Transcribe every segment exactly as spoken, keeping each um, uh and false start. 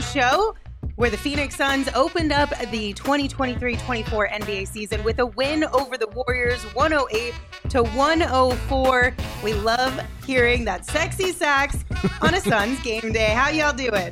show, where the Phoenix Suns opened up the twenty twenty-three twenty-four N B A season with a win over the Warriors, one oh eight to one oh four. We love hearing that sexy sax on a Suns game day. How y'all doing?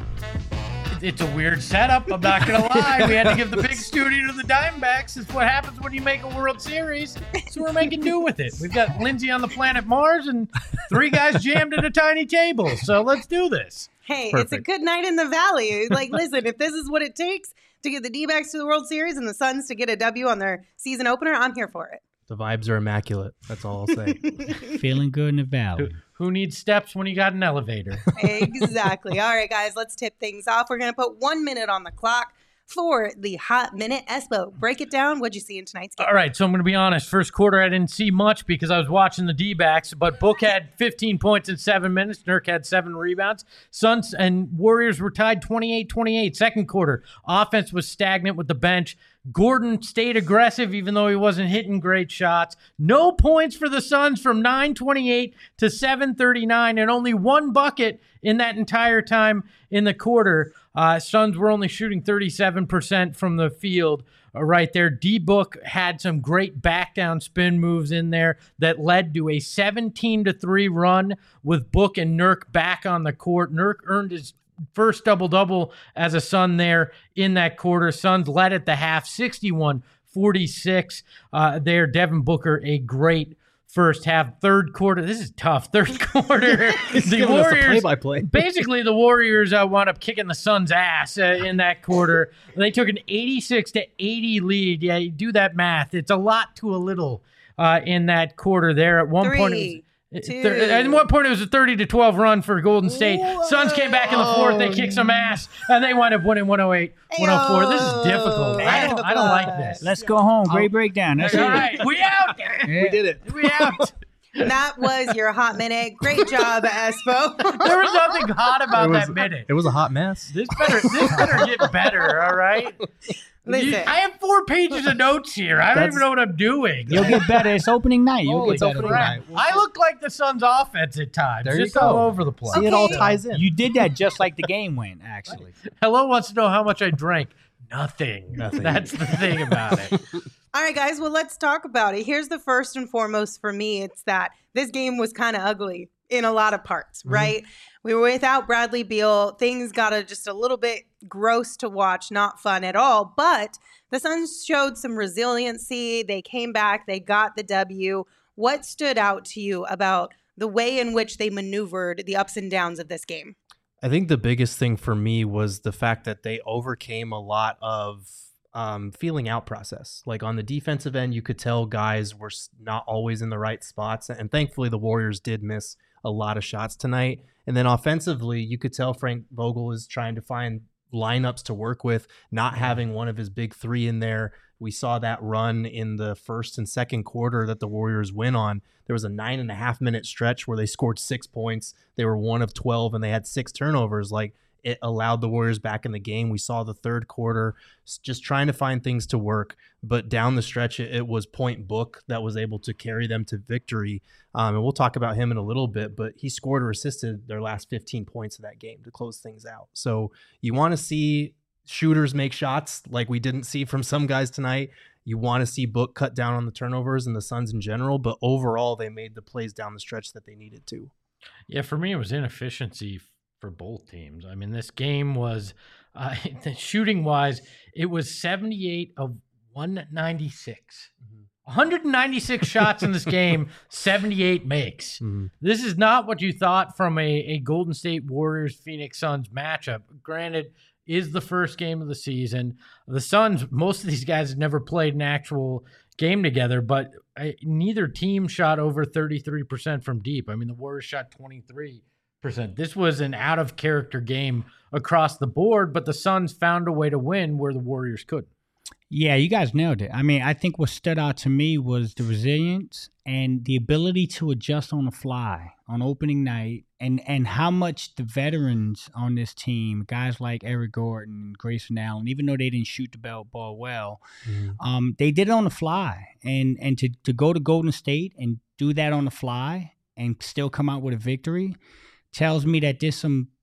It's a weird setup, I'm not going to lie. We had to give the big studio to the Diamondbacks. It's what happens when you make a World Series. So we're making do with it. We've got Lindsay on the planet Mars and three guys jammed at a tiny table. So let's do this. Hey, Perfect. It's a good night in the Valley. Like, listen, if this is what it takes to get the D-backs to the World Series and the Suns to get a W on their season opener, I'm here for it. The vibes are immaculate. That's all I'll say. Feeling good in the Valley. Who, who needs steps when you got an elevator? Exactly. All right, guys, let's tip things off. We're going to put one minute on the clock for the Hot Minute. Espo, break it down. What'd you see in tonight's game? All right, so I'm going to be honest. First quarter, I didn't see much because I was watching the D-backs, but Book had fifteen points in seven minutes. Nurk had seven rebounds. Suns and Warriors were tied twenty-eight twenty-eight. Second quarter, offense was stagnant with the bench. Gordon stayed aggressive even though he wasn't hitting great shots. No points for the Suns from nine twenty-eight to seven thirty-nine, and only one bucket in that entire time in the quarter. Uh, Suns were only shooting thirty-seven percent from the field uh, right there. D-Book had some great back-down spin moves in there that led to a seventeen to three run with Book and Nurk back on the court. Nurk earned his first double-double as a Sun there in that quarter. Suns led at the half, sixty-one forty-six uh, there. Devin Booker, a great first half. Third quarter, this is tough. Third quarter, the Warriors, play-by-play. basically the Warriors uh, wound up kicking the Suns' ass uh, in that quarter. They took an eighty-six to eighty lead. Yeah, you do that math. It's a lot to a little uh, in that quarter there. At one Three. point, it was Two. At one point, it was a thirty to twelve run for Golden State. Whoa. Suns came back in the fourth. They kicked some ass, and they wound up winning one oh eight one oh four. This is difficult. I don't, I don't like this. Let's go home. Great breakdown. That's All it. right, we out. We did it. We out. That was your Hot Minute. Great job, Espo. There was nothing hot about It was- that minute. It was a hot mess. This better, this better get better. All right. Listen. You- I have four pages of notes here. I don't That's- even know what I'm doing. You'll get better. It's opening night. You'll Oh, get it's better. opening Right. night. I look like the Suns' offense at times. There you just go. all over the place. See, it all Okay. ties in. You did that just like the game went, actually. Hello wants to know how much I drank. Nothing. Nothing. That's the thing about it. All right, guys, well, let's talk about it. Here's the first and foremost for me. It's that this game was kind of ugly in a lot of parts, Mm-hmm. right? We were without Bradley Beal. Things got a, just a little bit gross to watch, not fun at all. But the Suns showed some resiliency. They came back. They got the W. What stood out to you about the way in which they maneuvered the ups and downs of this game? I think the biggest thing for me was the fact that they overcame a lot of um, feeling out process. Like on the defensive end, you could tell guys were s- not always in the right spots. And thankfully, the Warriors did miss a lot of shots tonight. And then offensively, you could tell Frank Vogel is trying to find lineups to work with, not having one of his big three in there. We saw that run in the first and second quarter that the Warriors went on. There was a nine and a half minute stretch where they scored six points. They were one of twelve and they had six turnovers. Like, it allowed the Warriors back in the game. We saw the third quarter just trying to find things to work. But down the stretch, it, it was Point Book that was able to carry them to victory. Um, and we'll talk about him in a little bit, but he scored or assisted their last fifteen points of that game to close things out. So you want to see shooters make shots like we didn't see from some guys tonight. You want to see Book cut down on the turnovers and the Suns in general, but overall they made the plays down the stretch that they needed to. Yeah, for me, it was inefficiency for both teams. I mean, this game was, uh, shooting wise, it was seventy-eight of one ninety-six. Mm-hmm. one hundred ninety-six shots in this game, seventy-eight makes. Mm-hmm. This is not what you thought from a, a Golden State Warriors Phoenix Suns matchup. Granted, is the first game of the season. The Suns, most of these guys have never played an actual game together, but I, neither team shot over thirty-three percent from deep. I mean, the Warriors shot twenty-three percent. This was an out-of-character game across the board, but the Suns found a way to win where the Warriors couldn't. Yeah, you guys nailed it. I mean, I think what stood out to me was the resilience and the ability to adjust on the fly on opening night, and, and how much the veterans on this team, guys like Eric Gordon, Grayson Allen, even though they didn't shoot the ball, ball well, Mm-hmm. um, they did it on the fly. And and to, to go to Golden State and do that on the fly and still come out with a victory tells me that there's some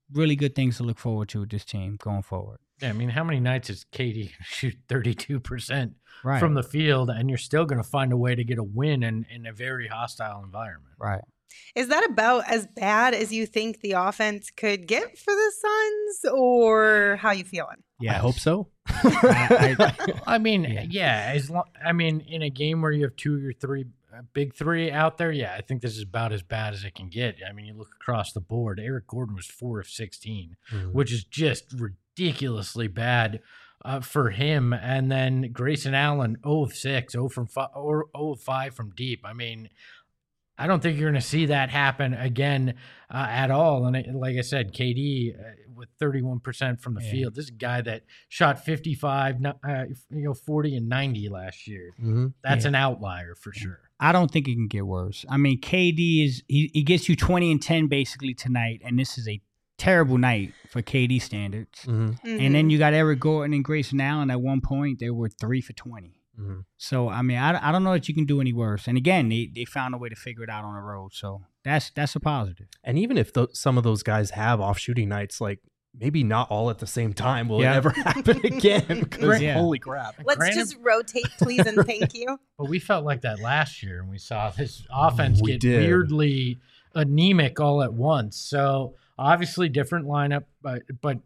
really good things to look forward to with this team going forward. Yeah, I mean, how many nights is K D shoot thirty-two percent Right. from the field, and you're still going to find a way to get a win in, in a very hostile environment? Right. Is that about as bad as you think the offense could get for the Suns, or how you feeling? I hope so. I, I, I mean, Yeah. yeah. as long, I mean, in a game where you have two or three uh, big three out there, yeah, I think this is about as bad as it can get. I mean, you look across the board. Eric Gordon was four of sixteen, Mhm. which is just ridiculously bad uh, for him. And then Grayson Allen, zero of six, zero from five, or zero of five from deep. I mean, I don't think you're going to see that happen again uh, at all. And it, like I said, K D uh, with thirty-one percent from the Yeah. field. This is a guy that shot fifty-five, no- uh, you know, forty and ninety last year. Mhm. That's Yeah. an outlier for sure. I don't think it can get worse. I mean, K D is he, he gets you twenty and ten basically tonight, and this is a terrible night for K D standards. Mhm. And then you got Eric Gordon and Grayson Allen. At one point, they were three for twenty. Mhm. So I mean, I, I don't know that you can do any worse. And again, they, they found a way to figure it out on the road. So that's that's a positive. And even if th- some of those guys have off shooting nights, like maybe not all at the same time will Yeah. it ever happen again. Because Yeah. holy crap. Let's Granted- just rotate, please, and thank you. But we felt like that last year, and we saw this offense We get did. weirdly anemic all at once. So obviously different lineup, but but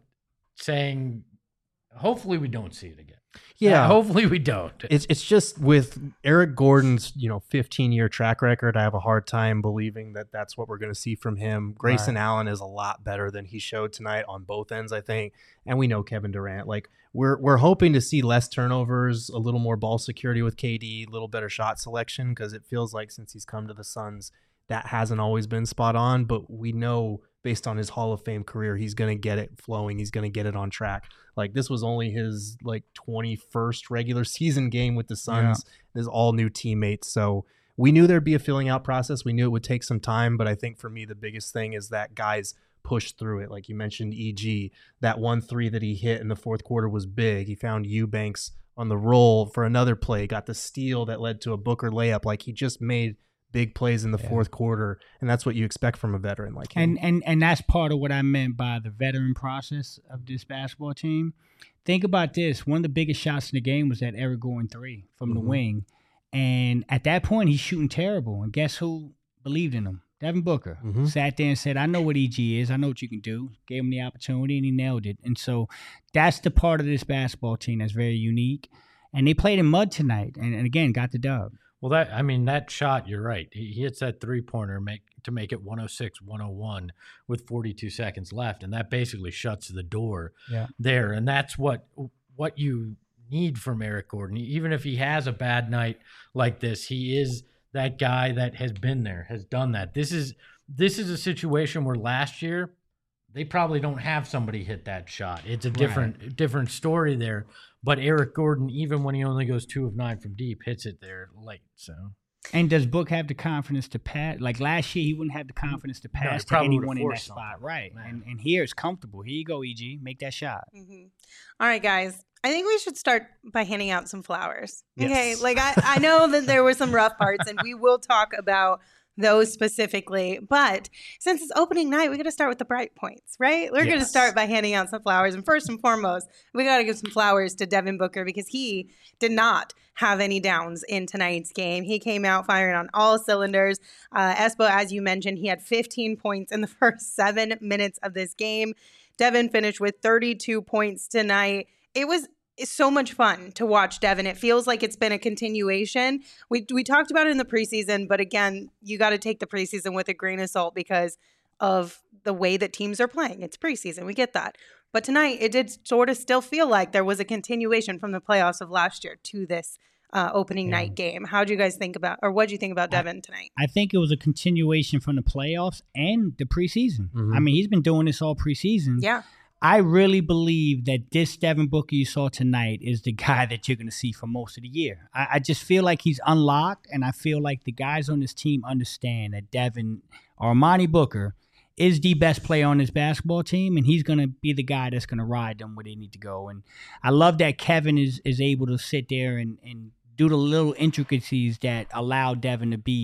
saying hopefully we don't see it again. Yeah. Uh, hopefully we don't. It's it's just with Eric Gordon's, you know, fifteen year track record, I have a hard time believing that that's what we're going to see from him. Grayson Allen is a lot better than he showed tonight on both ends, I think. And we know Kevin Durant. Like we're we're hoping to see less turnovers, a little more ball security with K D, a little better shot selection, because it feels like since he's come to the Suns, that hasn't always been spot on. But we know based on his Hall of Fame career, he's going to get it flowing. He's going to get it on track. Like this was only his like twenty-first regular season game with the Suns. There's all new teammates. So we knew there'd be a filling out process. We knew it would take some time. But I think for me, the biggest thing is that guys push through it. Like you mentioned, E G, that one three that he hit in the fourth quarter was big. He found Eubanks on the roll for another play, got the steal that led to a Booker layup. Like he just made big plays in the Yeah. fourth quarter, and that's what you expect from a veteran like him. And and and that's part of what I meant by the veteran process of this basketball team. Think about this. One of the biggest shots in the game was that Eric Gordon three from the Mhm. wing. And at that point, he's shooting terrible. And guess who believed in him? Devin Booker. Mhm. Sat there and said, I know what E G is. I know what you can do. Gave him the opportunity, and he nailed it. And so that's the part of this basketball team that's very unique. And they played in mud tonight. And, and again, got the dub. Well, that I mean, that shot, you're right. He, he hits that three pointer make to make it one oh six one oh one with forty-two seconds left, and that basically shuts the door Yeah. there. And that's what what you need from Eric Gordon. Even if he has a bad night like this, he is that guy that has been there, has done that. This is this is a situation where last year they probably don't have somebody hit that shot. It's a different different story there. But Eric Gordon, even when he only goes two of nine from deep, hits it there late. So And does Book have the confidence to pass? Like last year, he wouldn't have the confidence to he pass to probably anyone would've in that forced spot. something. Right. Yeah. And and here it's comfortable. Here you go, E G. Make that shot. Mm-hmm. All right, guys. I think we should start by handing out some flowers. Yes. Okay. Like, I, I know that there were some rough parts, and we will talk about those specifically. But since it's opening night, we got to start with the bright points, right? We're going to Yes. start by handing out some flowers. And first and foremost, we got to give some flowers to Devin Booker because he did not have any downs in tonight's game. He came out firing on all cylinders. Uh, Espo, as you mentioned, he had fifteen points in the first seven minutes of this game. Devin finished with thirty-two points tonight. It was it's so much fun to watch Devin. It feels like it's been a continuation. We we talked about it in the preseason, but again, you got to take the preseason with a grain of salt because of the way that teams are playing. It's preseason. We get that. But tonight, it did sort of still feel like there was a continuation from the playoffs of last year to this uh, opening Yeah. night game. How do you guys think about, or what do you think about Devin tonight? I think it was a continuation from the playoffs and the preseason. Mhm. I mean, he's been doing this all preseason. Yeah. I really believe that this Devin Booker you saw tonight is the guy that you're going to see for most of the year. I, I just feel like he's unlocked, and I feel like the guys on this team understand that Devin or Armani Booker is the best player on this basketball team, and he's going to be the guy that's going to ride them where they need to go. And I love that Kevin is is able to sit there and, and do the little intricacies that allow Devin to be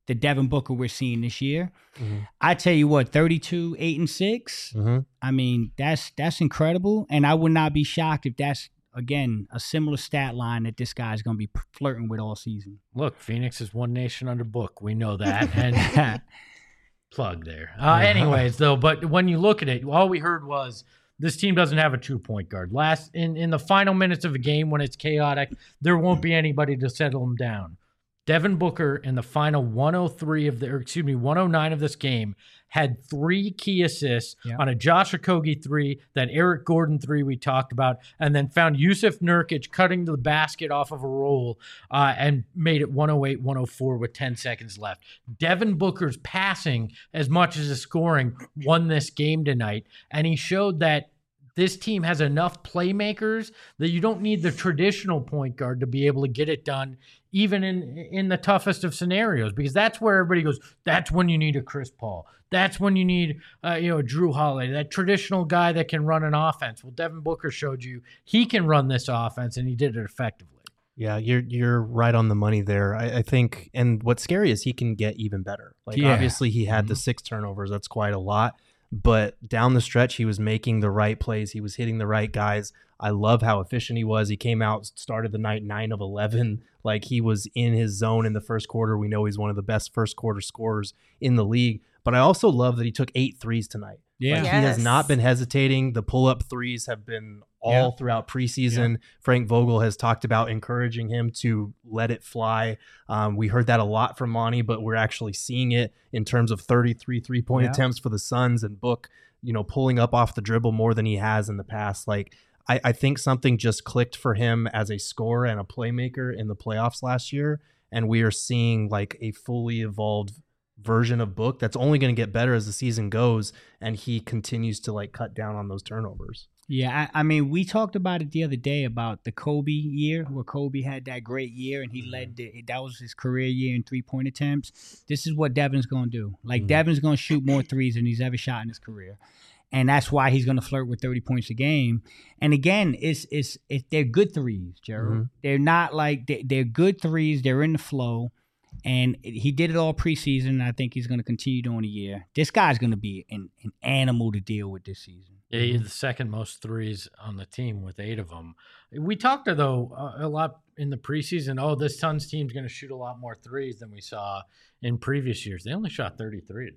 the Devin Booker we're seeing this year. Mm-hmm. I tell you what, thirty-two, eight and six. Mm-hmm. I mean, that's that's incredible, and I would not be shocked if that's again a similar stat line that this guy's going to be flirting with all season. Look, Phoenix is one nation under book. We know that. And plug there. Uh, anyways, though, but when you look at it, all we heard was this team doesn't have a true point guard. Last in, in the final minutes of a game when it's chaotic, there won't be anybody to settle them down. Devin Booker in the final one oh three of the, or excuse me, one oh nine of this game had three key assists yeah. on a Josh Okogie three, that Eric Gordon three we talked about, and then found Yusuf Nurkic cutting the basket off of a roll uh, and made it one oh eight one oh four with ten seconds left. Devin Booker's passing as much as his scoring won this game tonight, and he showed that this team has enough playmakers that you don't need the traditional point guard to be able to get it done, even in in the toughest of scenarios, because that's where everybody goes, that's when you need a Chris Paul. That's when you need uh, you know, a Drew Holiday, that traditional guy that can run an offense. Well, Devin Booker showed you he can run this offense, and he did it effectively. Yeah, you're you're right on the money there. I, I think, and what's scary is he can get even better. Like Yeah. obviously he had Mhm. the six turnovers. That's quite a lot. But down the stretch, he was making the right plays. He was hitting the right guys. I love how efficient he was. He came out, started the night nine of eleven. Like he was in his zone in the first quarter. We know he's one of the best first quarter scorers in the league. But I also love that he took eight threes tonight. Yeah. Like, Yes. he has not been hesitating. The pull-up threes have been all Yeah. throughout preseason. Frank Vogel has talked about encouraging him to let it fly. Um, we heard that a lot from Monty, but we're actually seeing it in terms of thirty-three three-point Yeah. attempts for the Suns, and Book, you know, pulling up off the dribble more than he has in the past. Like, I, I think something just clicked for him as a scorer and a playmaker in the playoffs last year, and we are seeing like a fully evolved version of Book that's only going to get better as the season goes, and he continues to like cut down on those turnovers. Yeah, I, I mean, we talked about it the other day about the Kobe year, where Kobe had that great year and he led the, that was his career year in three-point attempts. This is what Devin's going to do. Like, Mhm. Devin's going to shoot more threes than he's ever shot in his career. And that's why he's going to flirt with thirty points a game. And again, it's it's, it's they're good threes, Gerald. Mhm. They're not like they, they're good threes. They're in the flow. And he did it all preseason, and I think he's going to continue doing a year. This guy's going to be an, an animal to deal with this season. Yeah, he had the second most threes on the team with eight of them. We talked, though, uh, a lot in the preseason. Oh, this Suns team's going to shoot a lot more threes than we saw in previous years. They only shot thirty-three.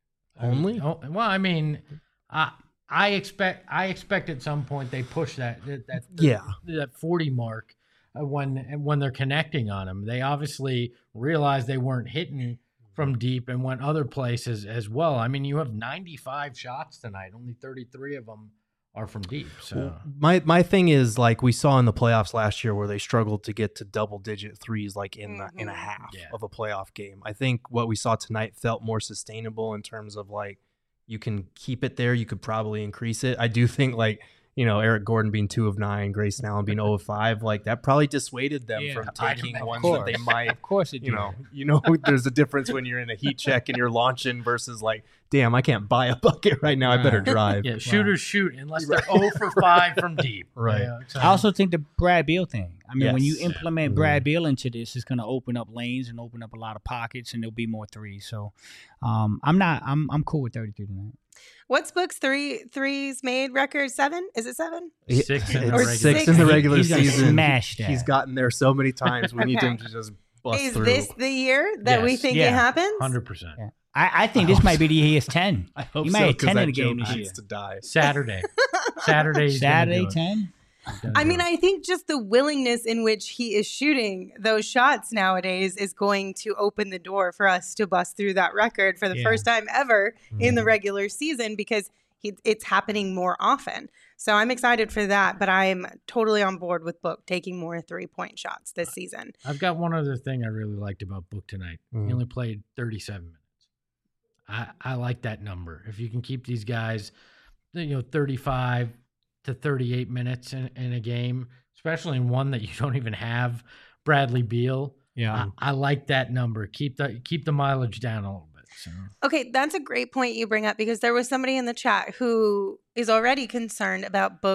Only? Oh, well, I mean, I I expect I expect at some point they push that that that, Yeah. that forty mark uh, when when they're connecting on them. They obviously realized they weren't hitting from deep and went other places as well. I mean, you have ninety-five shots tonight. Only thirty-three of them are from deep. So My my thing is, like we saw in the playoffs last year where they struggled to get to double digit threes like in the, in a Mhm. half Yeah. of a playoff game. I think what we saw tonight felt more sustainable in terms of like you can keep it there, you could probably increase it. I do think like, you know, Eric Gordon being two of nine, Grayson Allen being zero of five, like that probably dissuaded them Yeah, from I- taking of ones course. that they might, Of course it you did. know, you know, there's a difference when you're in a heat check and you're launching versus like, damn, I can't buy a bucket right now. I better Right. drive. yeah, shooters shoot unless they're zero for five from deep. Right. Yeah, so- I also think the Brad Beal thing. I mean, when you Yes. implement Mhm. Brad Beal into this, it's going to open up lanes and open up a lot of pockets, and there'll be more threes. So, um, I'm not. I'm I'm cool with thirty-three tonight. What's Book's three threes made record? Seven? Is it seven? Six in the It's regular six season. in the He- regular he's gonna season. smash that. He's gotten there so many times. We need him Okay. to just bust Is through. this the year that we Yes. think Yeah. it happens? one hundred percent. Yeah. I, I think I this hope might so. be the year he has ten. I hope He so, might have 'cause ten that in the game joke this needs year. to die. Saturday. Saturday. he's gonna Saturday do it. ten. He's gonna I do mean, it. I think just the willingness in which he is shooting those shots nowadays is going to open the door for us to bust through that record for the Yeah. first time ever in the Mhm. regular season because he, it's happening more often. So I'm excited for that, but I'm totally on board with Book taking more three-point shots this season. I've got one other thing I really liked about Book tonight. Mhm. He only played thirty-seven minutes. I, I like that number. If you can keep these guys, you know, thirty-five to thirty-eight minutes in, in a game, especially in one that you don't even have Bradley Beal, Yeah. I, I like that number. Keep the keep the mileage down a little bit. So Okay, that's a great point you bring up because there was somebody in the chat who is already concerned about Book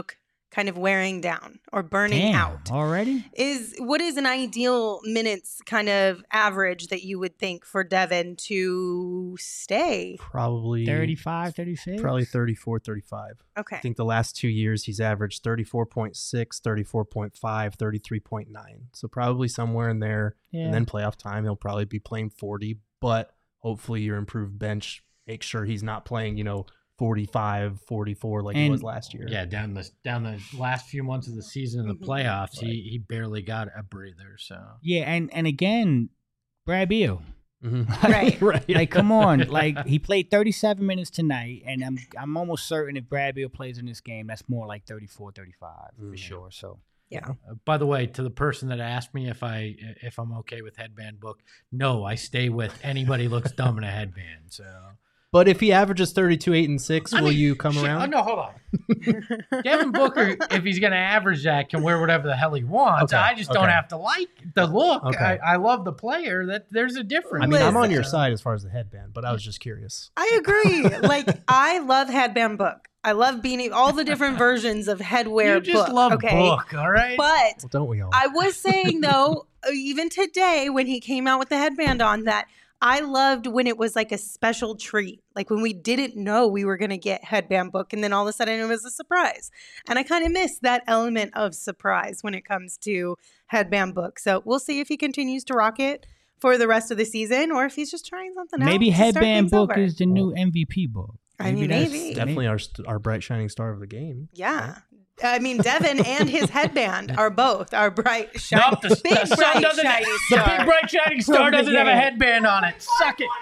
kind of wearing down or burning Damn, out. already? Is what is an ideal minutes kind of average that you would think for Devin to stay? Probably thirty-five, thirty-six? Probably thirty-four, thirty-five. Okay. I think the last two years he's averaged thirty-four point six, thirty-four point five, thirty-three point nine. So probably somewhere in there. Yeah. And then playoff time, he'll probably be playing forty. But hopefully your improved bench makes sure he's not playing, you know, forty-five, forty-four like he And- was last year. Yeah, down the down the last few months of the season in the Mhm. playoffs, he he barely got a breather. So Yeah, and, and again, Brad Beal. Mhm. Right. right. Like, come on. Like, he played thirty-seven minutes tonight, and I'm I'm almost certain if Brad Beal plays in this game, that's more like thirty-four, thirty-five for Mhm. sure. So, Yeah. Uh, by the way, to the person that asked me if I if I'm okay with headband book, no, I stay with anybody looks dumb in a headband. So But if he averages thirty-two, eight, and six, I will mean, you come shit, around? Oh no, hold on. Devin Booker, if he's going to average that, can wear whatever the hell he wants. Okay, I just don't okay. have to like the look. Okay. I, I love the player. That there's a difference. I mean, I'm on Listen. your side as far as the headband, but I was just curious. I agree. Like, I love headband book. I love beanie, all the different versions of headwear You just book. love okay? book, all right? But Well, don't we all? I was saying though, even today when he came out with the headband on, that I loved when it was like a special treat, like when we didn't know we were going to get headband book, and then all of a sudden it was a surprise. And I kind of miss that element of surprise when it comes to headband book. So we'll see if he continues to rock it for the rest of the season, or if he's just trying something maybe else. to start Headband things Book over. is the new M V P book. I mean, that's- maybe. Definitely our st- our bright shining star of the game. Yeah. I mean, Devin and his headband are both our bright, shiny, Nope, the, big, the sun bright, doesn't. shiny The star. big bright shining star doesn't have a headband on it. Suck it.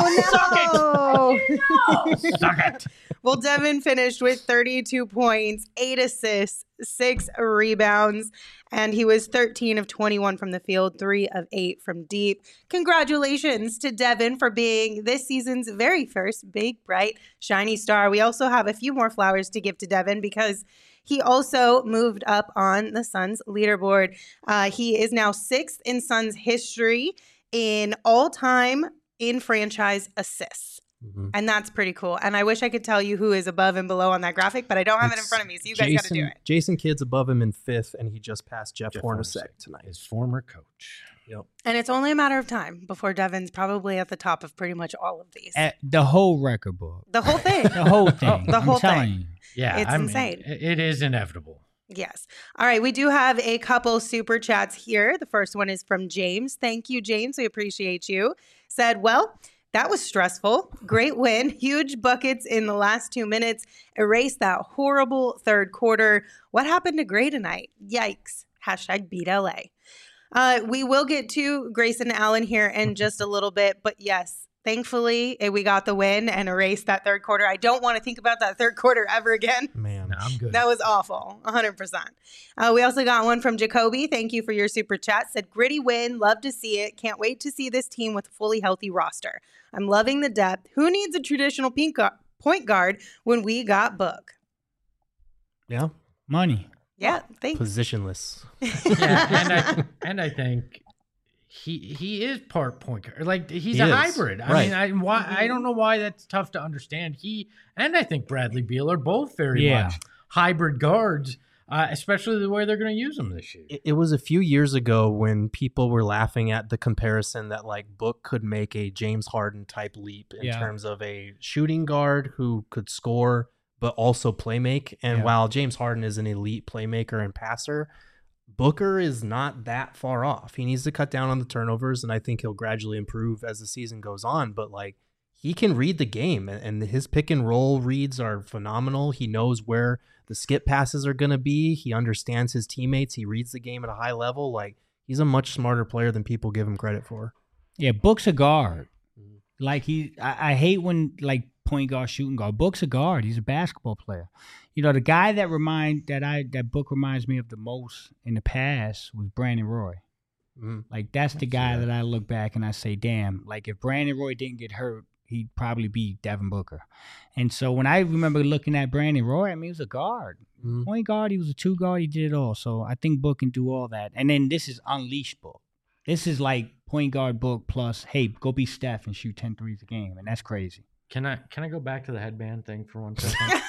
Oh, no. Suck it. Well, Devin finished with thirty-two points, eight assists, six rebounds, and he was thirteen of twenty-one from the field, three of eight from deep. Congratulations to Devin for being this season's very first big, bright, shiny star. We also have a few more flowers to give to Devin because he also moved up on the Suns leaderboard. Uh, he is now sixth in Suns history in all-time in franchise assists. Mhm. And that's pretty cool. And I wish I could tell you who is above and below on that graphic, but I don't have it in It's front of me. So you guys got to do it. Jason Kidd's above him in fifth, and he just passed Jeff, Jeff Hornacek Hornacek. tonight. His former coach. Yep. And it's only a matter of time before Devin's probably at the top of pretty much all of these. At the whole record book. The whole thing. The whole thing. The I'm whole telling thing. you. Yeah, It's I mean, insane. it- it is inevitable. Yes. All right. We do have a couple super chats here. The first one is from James. Thank you, James. We appreciate you. Said, well, that was stressful. Great win. Huge buckets in the last two minutes. Erased that horrible third quarter. What happened to Gray tonight? Yikes. Hashtag beat L A. Uh, we will get to Grayson Allen here in just a little bit. But yes, thankfully, eh, we got the win and erased that third quarter. I don't want to think about that third quarter ever again. Man, No, I'm good. That was awful, one hundred percent. Uh, we also got one from Jacoby. Thank you for your super chat. Said, gritty win. Love to see it. Can't wait to see this team with a fully healthy roster. I'm loving the depth. Who needs a traditional pink gu- point guard when we got Book? yeah, Money. Yeah, thanks. positionless. yeah, and I and I think he he is part point guard. Like he's He a is. hybrid. I Right. mean, I why I don't know why that's tough to understand. He and I think Bradley Beal are both very Yeah. much hybrid guards, uh, especially the way they're going to use them this year. It, it was a few years ago when people were laughing at the comparison that like Book could make a James Harden type leap in Yeah. terms of a shooting guard who could score but also play make. And Yeah. while James Harden is an elite playmaker and passer, Booker is not that far off. He needs to cut down on the turnovers, and I think he'll gradually improve as the season goes on. But like he can read the game, and and his pick and roll reads are phenomenal. He knows where the skip passes are going to be. He understands his teammates. He reads the game at a high level. Like he's a much smarter player than people give him credit for. Yeah, Book's a guard. Like he, I, I hate when like point guard, shooting guard. Book's a guard. He's a basketball player. You know, the guy that remind that I that Book reminds me of the most in the past was Brandon Roy. Mm. Like that's the I see guy that. that I look back and I say, damn. Like if Brandon Roy didn't get hurt, he'd probably be Devin Booker. And so when I remember looking at Brandon Roy, I mean, he was a guard. Mm. Point guard, he was a two guard, he did it all. So I think Book can do all that. And then this is unleashed Book. This is like point guard Book plus, hey, go be Steph and shoot ten threes a game. And that's crazy. Can I can I go back to the headband thing for one second? We're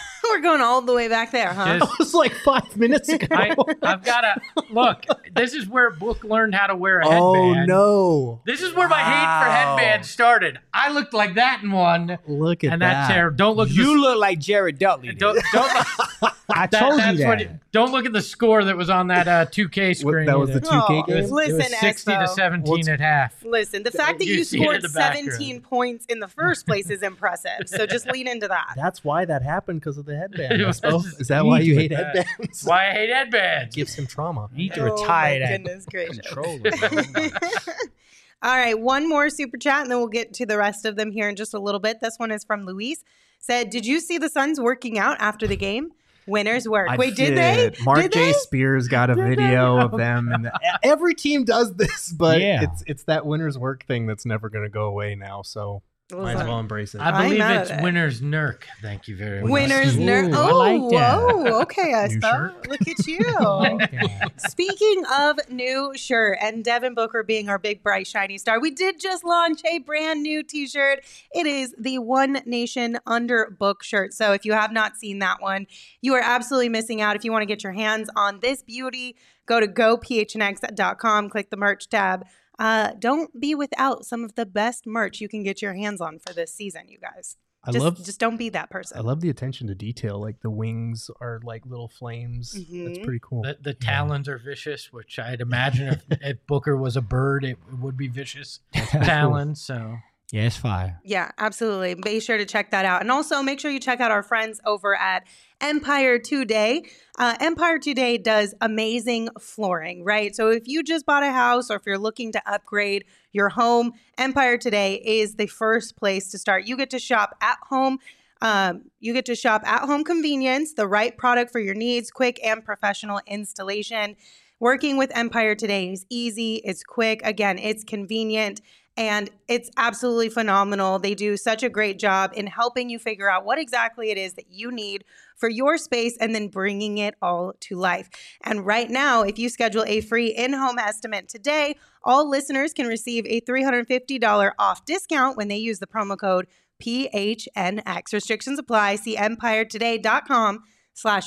going all the way back there, huh? Just- That was like five minutes ago. I, I've got to look. This is where Book learned how to wear a oh headband. no! This is where my hate for Wow. headbands started. I looked like that in one, Look at and that. that's terrible. Don't look. at You the, look like Jared Dudley. did. don't don't. I That, told that's you what that. it- don't look at the score that was on that uh, two K screen. that was either. the two K Oh, game? It was, Listen, it was sixty to Expo. seventeen What's- at half. Listen, the fact that You you, see it in scored the background. seventeen points in the first place is impressive. So just lean into that. That's why that happened because of the headband. It was- Espo. Is that You why need you to hate put that- headbands? Why I hate headbands. Gives him trauma. You need to Oh, retire my that goodness gracious. controller. All right, one more super chat, and then we'll get to the rest of them here in just a little bit. This one is from Luis. Said, "Did you see the Suns working out after the game? Winners work." I Wait, did, they? Mark Did J. they? Spears got a video of them, and the, every team does this, but Yeah. it's it's that winner's work thing that's never going to go away now. So might as well embrace it. I I'm believe mad it's at it. Winners Nurk. Thank you very much. Winners Ooh, nerd. I Oh, like that. whoa. Okay, New Espo. shirt. Look at you. Okay. Speaking of new shirt and Devin Booker being our big, bright, shiny star, we did just launch a brand new t-shirt. It is the One Nation Under Book shirt. So if you have not seen that one, you are absolutely missing out. If you want to get your hands on this beauty, go to go p h n x dot com, click the merch tab. Uh, don't be without some of the best merch you can get your hands on for this season, you guys. I Just, love just don't be that person. I love the attention to detail. Like the wings are like little flames. That's Mhm. pretty cool. The, the talons are vicious, which I'd imagine if, if Booker was a bird, it would be vicious talons. So Yeah, it's fire. Yeah, absolutely. Be sure to check that out. And also make sure you check out our friends over at Empire Today. Uh, Empire Today does amazing flooring, right? So if you just bought a house or if you're looking to upgrade your home, Empire Today is the first place to start. You get to shop at home. Um, you get to shop at home convenience, the right product for your needs, quick and professional installation. Working with Empire Today is easy, it's quick. Again, it's convenient. And it's absolutely phenomenal. They do such a great job in helping you figure out what exactly it is that you need for your space and then bringing it all to life. And right now, if you schedule a free in-home estimate today, all listeners can receive a three hundred fifty dollars off discount when they use the promo code P H N X. Restrictions apply. See empiretoday.com slash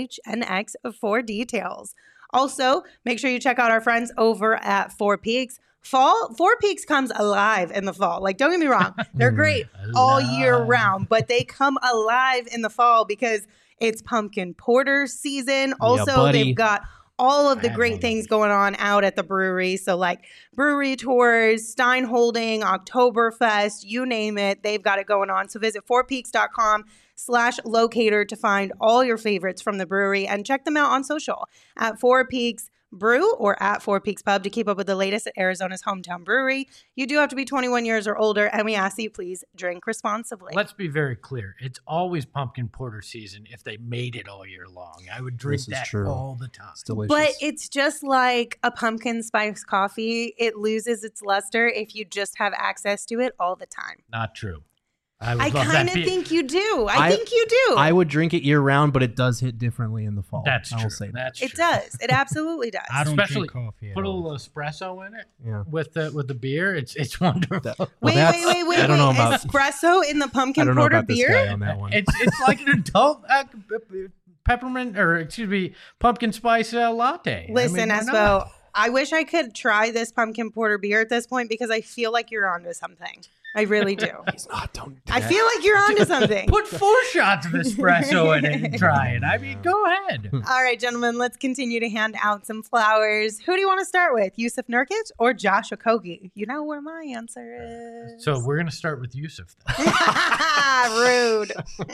PHNX for details. Also, make sure you check out our friends over at Four Peaks. Fall, Four Peaks comes alive in the fall. Like, don't get me wrong. They're great all year Alive. round, but they come alive in the fall because it's pumpkin porter season. Also, buddy. they've got all of the I have great one of things going on out at the brewery. So like brewery tours, Stein Holding, Oktoberfest, you name it. They've got it going on. So visit fourpeaks.com slash locator to find all your favorites from the brewery and check them out on social at Four Peaks Brew or at Four Peaks Pub to keep up with the latest at Arizona's hometown brewery. You do have to be twenty-one years or older, and we ask that you please drink responsibly. let's be very clear. It's always pumpkin porter season if they made it all year long. I would drink This is that true. all the time. It's delicious. But it's just like a pumpkin spice coffee. It loses its luster if you just have access to it all the time. Not true. I, would I love that kind of be- think you do. I, I- think you do. I would drink it year round, but it does hit differently in the fall. That's I true. will say that. That's it true. does. It absolutely does. I don't Especially drink coffee at Put a all. little espresso in it Yeah. with the with the beer. It's it's wonderful. That- well, wait, that's- wait, wait, wait, I don't wait. know about. Espresso in the I pumpkin don't know porter about this beer? guy on that one. It's it's like an adult uh, peppermint or excuse me pumpkin spice uh, latte. Listen, I mean, why Espo, not? I wish I could try this pumpkin porter beer at this point because I feel like you're onto something. I really do. He's not. Don't. Do I that. feel like you're onto something. Put four shots of espresso in it and try it. I mean, go ahead. All right, gentlemen, let's continue to hand out some flowers. Who do you want to start with, Yusuf Nurkic or Josh Okogie? You know where my answer is. So we're gonna start with Yusuf. Then. Rude.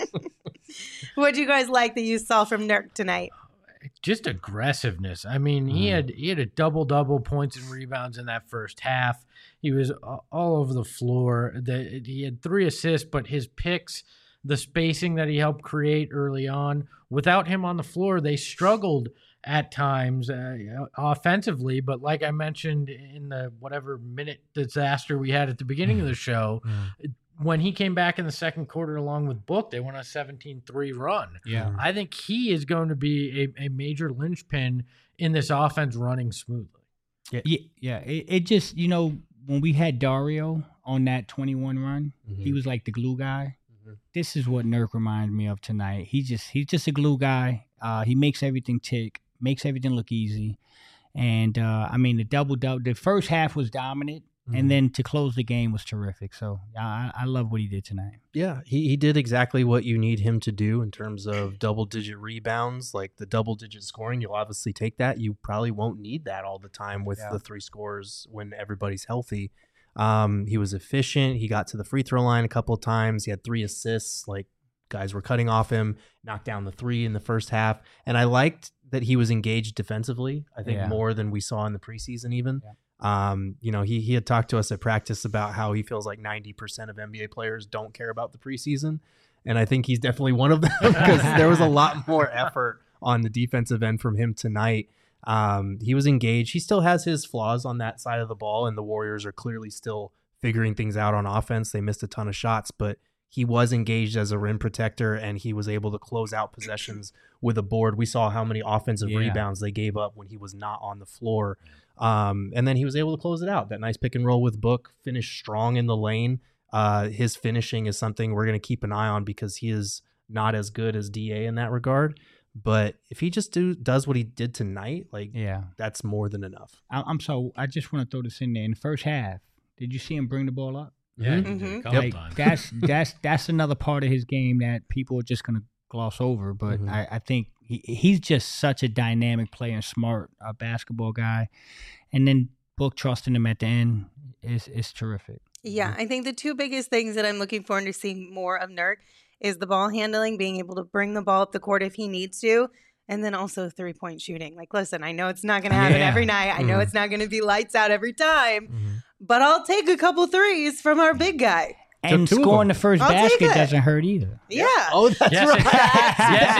What do you guys like that you saw from Nurk tonight? Just aggressiveness. I mean, he Mm. had he had a double double points and rebounds in that first half. He was a- all over the floor. The, he had three assists, but his picks, the spacing that he helped create early on, without him on the floor, they struggled at times uh, offensively. But like I mentioned in the whatever minute disaster we had at the beginning of the show, Mm. when he came back in the second quarter along with Book, they went on a seventeen three run. Yeah. I think he is going to be a, a major linchpin in this offense running smoothly. Yeah, yeah. It, it just, you know, when we had Dario on that twenty-one run, he Mhm. was like the glue guy. Mhm. this is what Nurk reminded me of tonight. He just he's just a glue guy. Uh, he makes everything tick, makes everything look easy. And uh, I mean, the double double. The first half was dominant, mm-hmm. and then to close the game was terrific. So I, I love what he did tonight. Yeah, he, he did exactly what you need him to do in terms of double digit rebounds, like the double digit scoring. You'll obviously take that. You probably won't need that all the time with yeah. the three scores when everybody's healthy. Um, he was efficient. He got to the free throw line a couple of times. He had three assists. Like guys were cutting off him, knocked down the three in the first half. And I liked that he was engaged defensively, I think yeah. more than we saw in the preseason even. Yeah. Um, you know, he he had talked to us at practice about how he feels like ninety percent of N B A players don't care about the preseason. And I think he's definitely one of them because there was a lot more effort on the defensive end from him tonight. Um, he was engaged. He still has his flaws on that side of the ball, and the Warriors are clearly still figuring things out on offense. They missed a ton of shots, but he was engaged as a rim protector, and he was able to close out possessions with a board. We saw how many offensive yeah. rebounds they gave up when he was not on the floor. Um, and then he was able to close it out. That nice pick and roll with Book, finished strong in the lane. Uh, his finishing is something we're going to keep an eye on because he is not as good as D A in that regard. But if he just do does what he did tonight, like yeah, that's more than enough. I, I'm so I just want to throw this in there. In the first half, did you see him bring the ball up? Yeah, mm-hmm. like, that's that's that's another part of his game that people are just gonna gloss over. But mm-hmm. I, I think he, he's just such a dynamic player and smart uh, basketball guy. And then Book trusting him at the end is is terrific. Yeah, I think the two biggest things that I'm looking forward to seeing more of Nurk is the ball handling, being able to bring the ball up the court if he needs to, and then also three-point shooting. Like, listen, I know it's not going to happen yeah. every night. I know mm-hmm. it's not going to be lights out every time, mm-hmm. but I'll take a couple threes from our big guy. And scoring the first I'll basket doesn't hurt either. Yeah. Oh, that's yes, right. It, yes,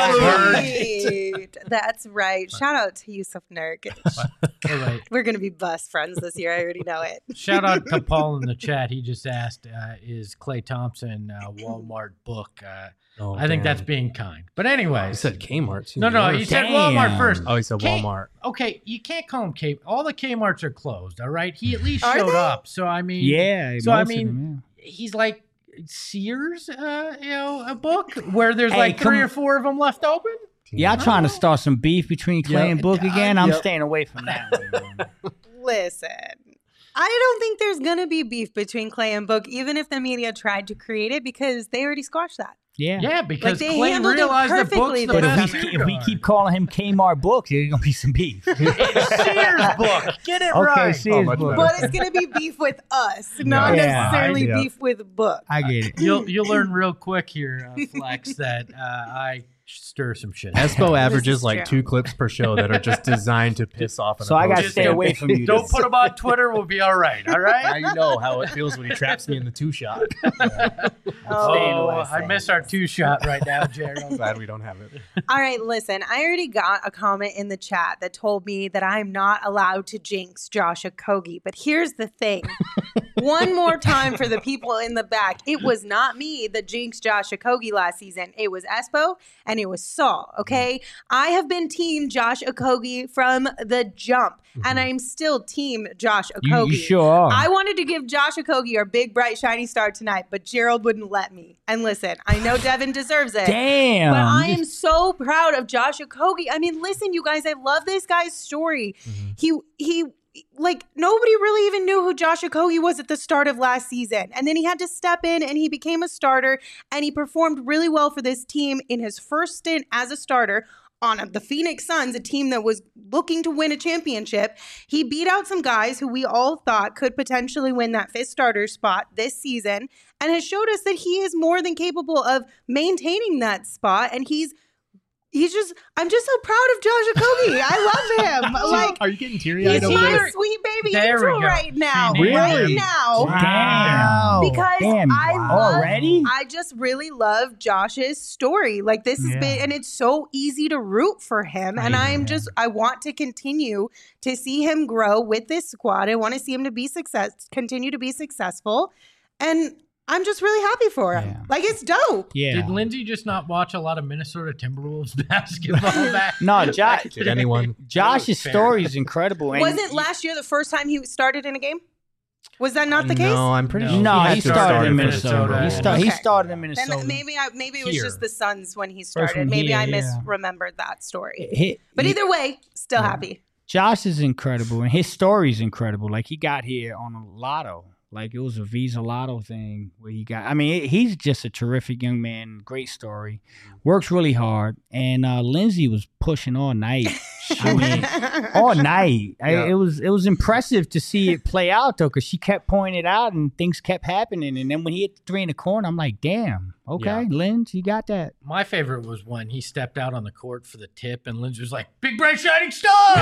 it does hurt. That's right. Shout out to Yusuf Nurk. Right. We're going to be best friends this year. I already know it. Shout out to Paul in the chat. He just asked, uh, is Klay Thompson uh, Walmart Book? Uh, oh, I think that's being kind. But anyway. He said Kmart. No, no, he said Walmart first. Oh, he said K- Walmart. Okay, you can't call him K. All the Kmarts are closed, all right? He at least Are showed they? up. So, I mean. Yeah. So, I most of mean, them, yeah. he's like Sears, uh, you know, a book where there's Hey, like three come- or four of them left open. Y'all trying to start some beef between Klay Yep. and Book again? I'm Yep. staying away from that one. Listen, I don't think there's going to be beef between Klay and Book, even if the media tried to create it, because they already squashed that. Yeah. Yeah, because Like, they Klay handled it realized that Book's perfectly the this But if best we, shooter if we guard. keep calling him Kmart Book, there's going to be some beef. It's Sears Book. Get it Okay, right. Sears Oh, much Book. better. But it's going to be beef with us, not Yeah. necessarily Yeah. beef with Book. I get it. You'll you'll learn real quick here, uh, Flex, that uh, I stir some shit. Espo averages is like true. two clips per show that are just designed to piss off an So I got to opposing stay fan. away from you. Don't put him on Twitter. We'll be all right. All Now right. you know how it feels when he traps me in the two shot. Oh, I miss our two shot right now, Gerald. Glad we don't have it. All right, listen, I already got a comment in the chat that told me that I'm not allowed to jinx Josh Okogie. But here's the thing. One more time for the people in the back. It was not me that jinxed Josh Okogie last season. It was Espo and it was Saul, okay? I have been team Josh Okogie from the jump, and I'm still team Josh You, Okogie. you sure are. I wanted to give Josh Okogie our big, bright, shiny star tonight, but Gerald wouldn't let me. And listen, I know Devin deserves it. Damn. But I am so proud of Josh Okogie. I mean, listen, you guys, I love this guy's story. Mm-hmm. He he like nobody really even knew who Josh Okogie was at the start of last season. And then he had to step in and he became a starter and he performed really well for this team in his first stint as a starter on the Phoenix Suns, a team that was looking to win a championship. He beat out some guys who we all thought could potentially win that fifth starter spot this season and has showed us that he is more than capable of maintaining that spot. And he's He's just, I'm just so proud of Josh Okogie. I love him. Like, Are you getting teary he's eyed over my there? sweet baby There we angel go. right now. Really? Right now. Damn. Because Damn. I love, Already? I just really love Josh's story. Like this has Yeah. been, and it's so easy to root for him. And I I'm know. just, I want to continue to see him grow with this squad. I want to see him to be success, continue to be successful. And I'm just really happy for him. Yeah. Like it's dope. Yeah. Did Lindsay just not watch a lot of Minnesota Timberwolves basketball back? No, Josh. Did anyone? Josh's Fair. story is incredible. And Wasn't last year the first time he started in a game? Was that not the case? No, I'm pretty No. sure No, had he to started start in for Minnesota. Super He, Bowl. start, he Okay. started in Minnesota. Then maybe I maybe it was Here. just the Suns when he First started. one Maybe here, I yeah. misremembered that story. He- But he- either way, still Yeah. happy. Josh is incredible, and his story is incredible. Like, he got here on a lotto. Like, it was a Visa Lotto thing where he got. I mean, he's just a terrific young man. Great story. Works really hard. And uh, Lindsay was pushing all night. I mean, all night. I, Yeah. it was it was impressive to see it play out though, because she kept pointing it out and things kept happening. And then when he hit the three in the corner, I'm like, damn. Okay, Yeah. Lindsay, you got that. My favorite was when he stepped out on the court for the tip, and Lindsay was like, "Big bright shining star!"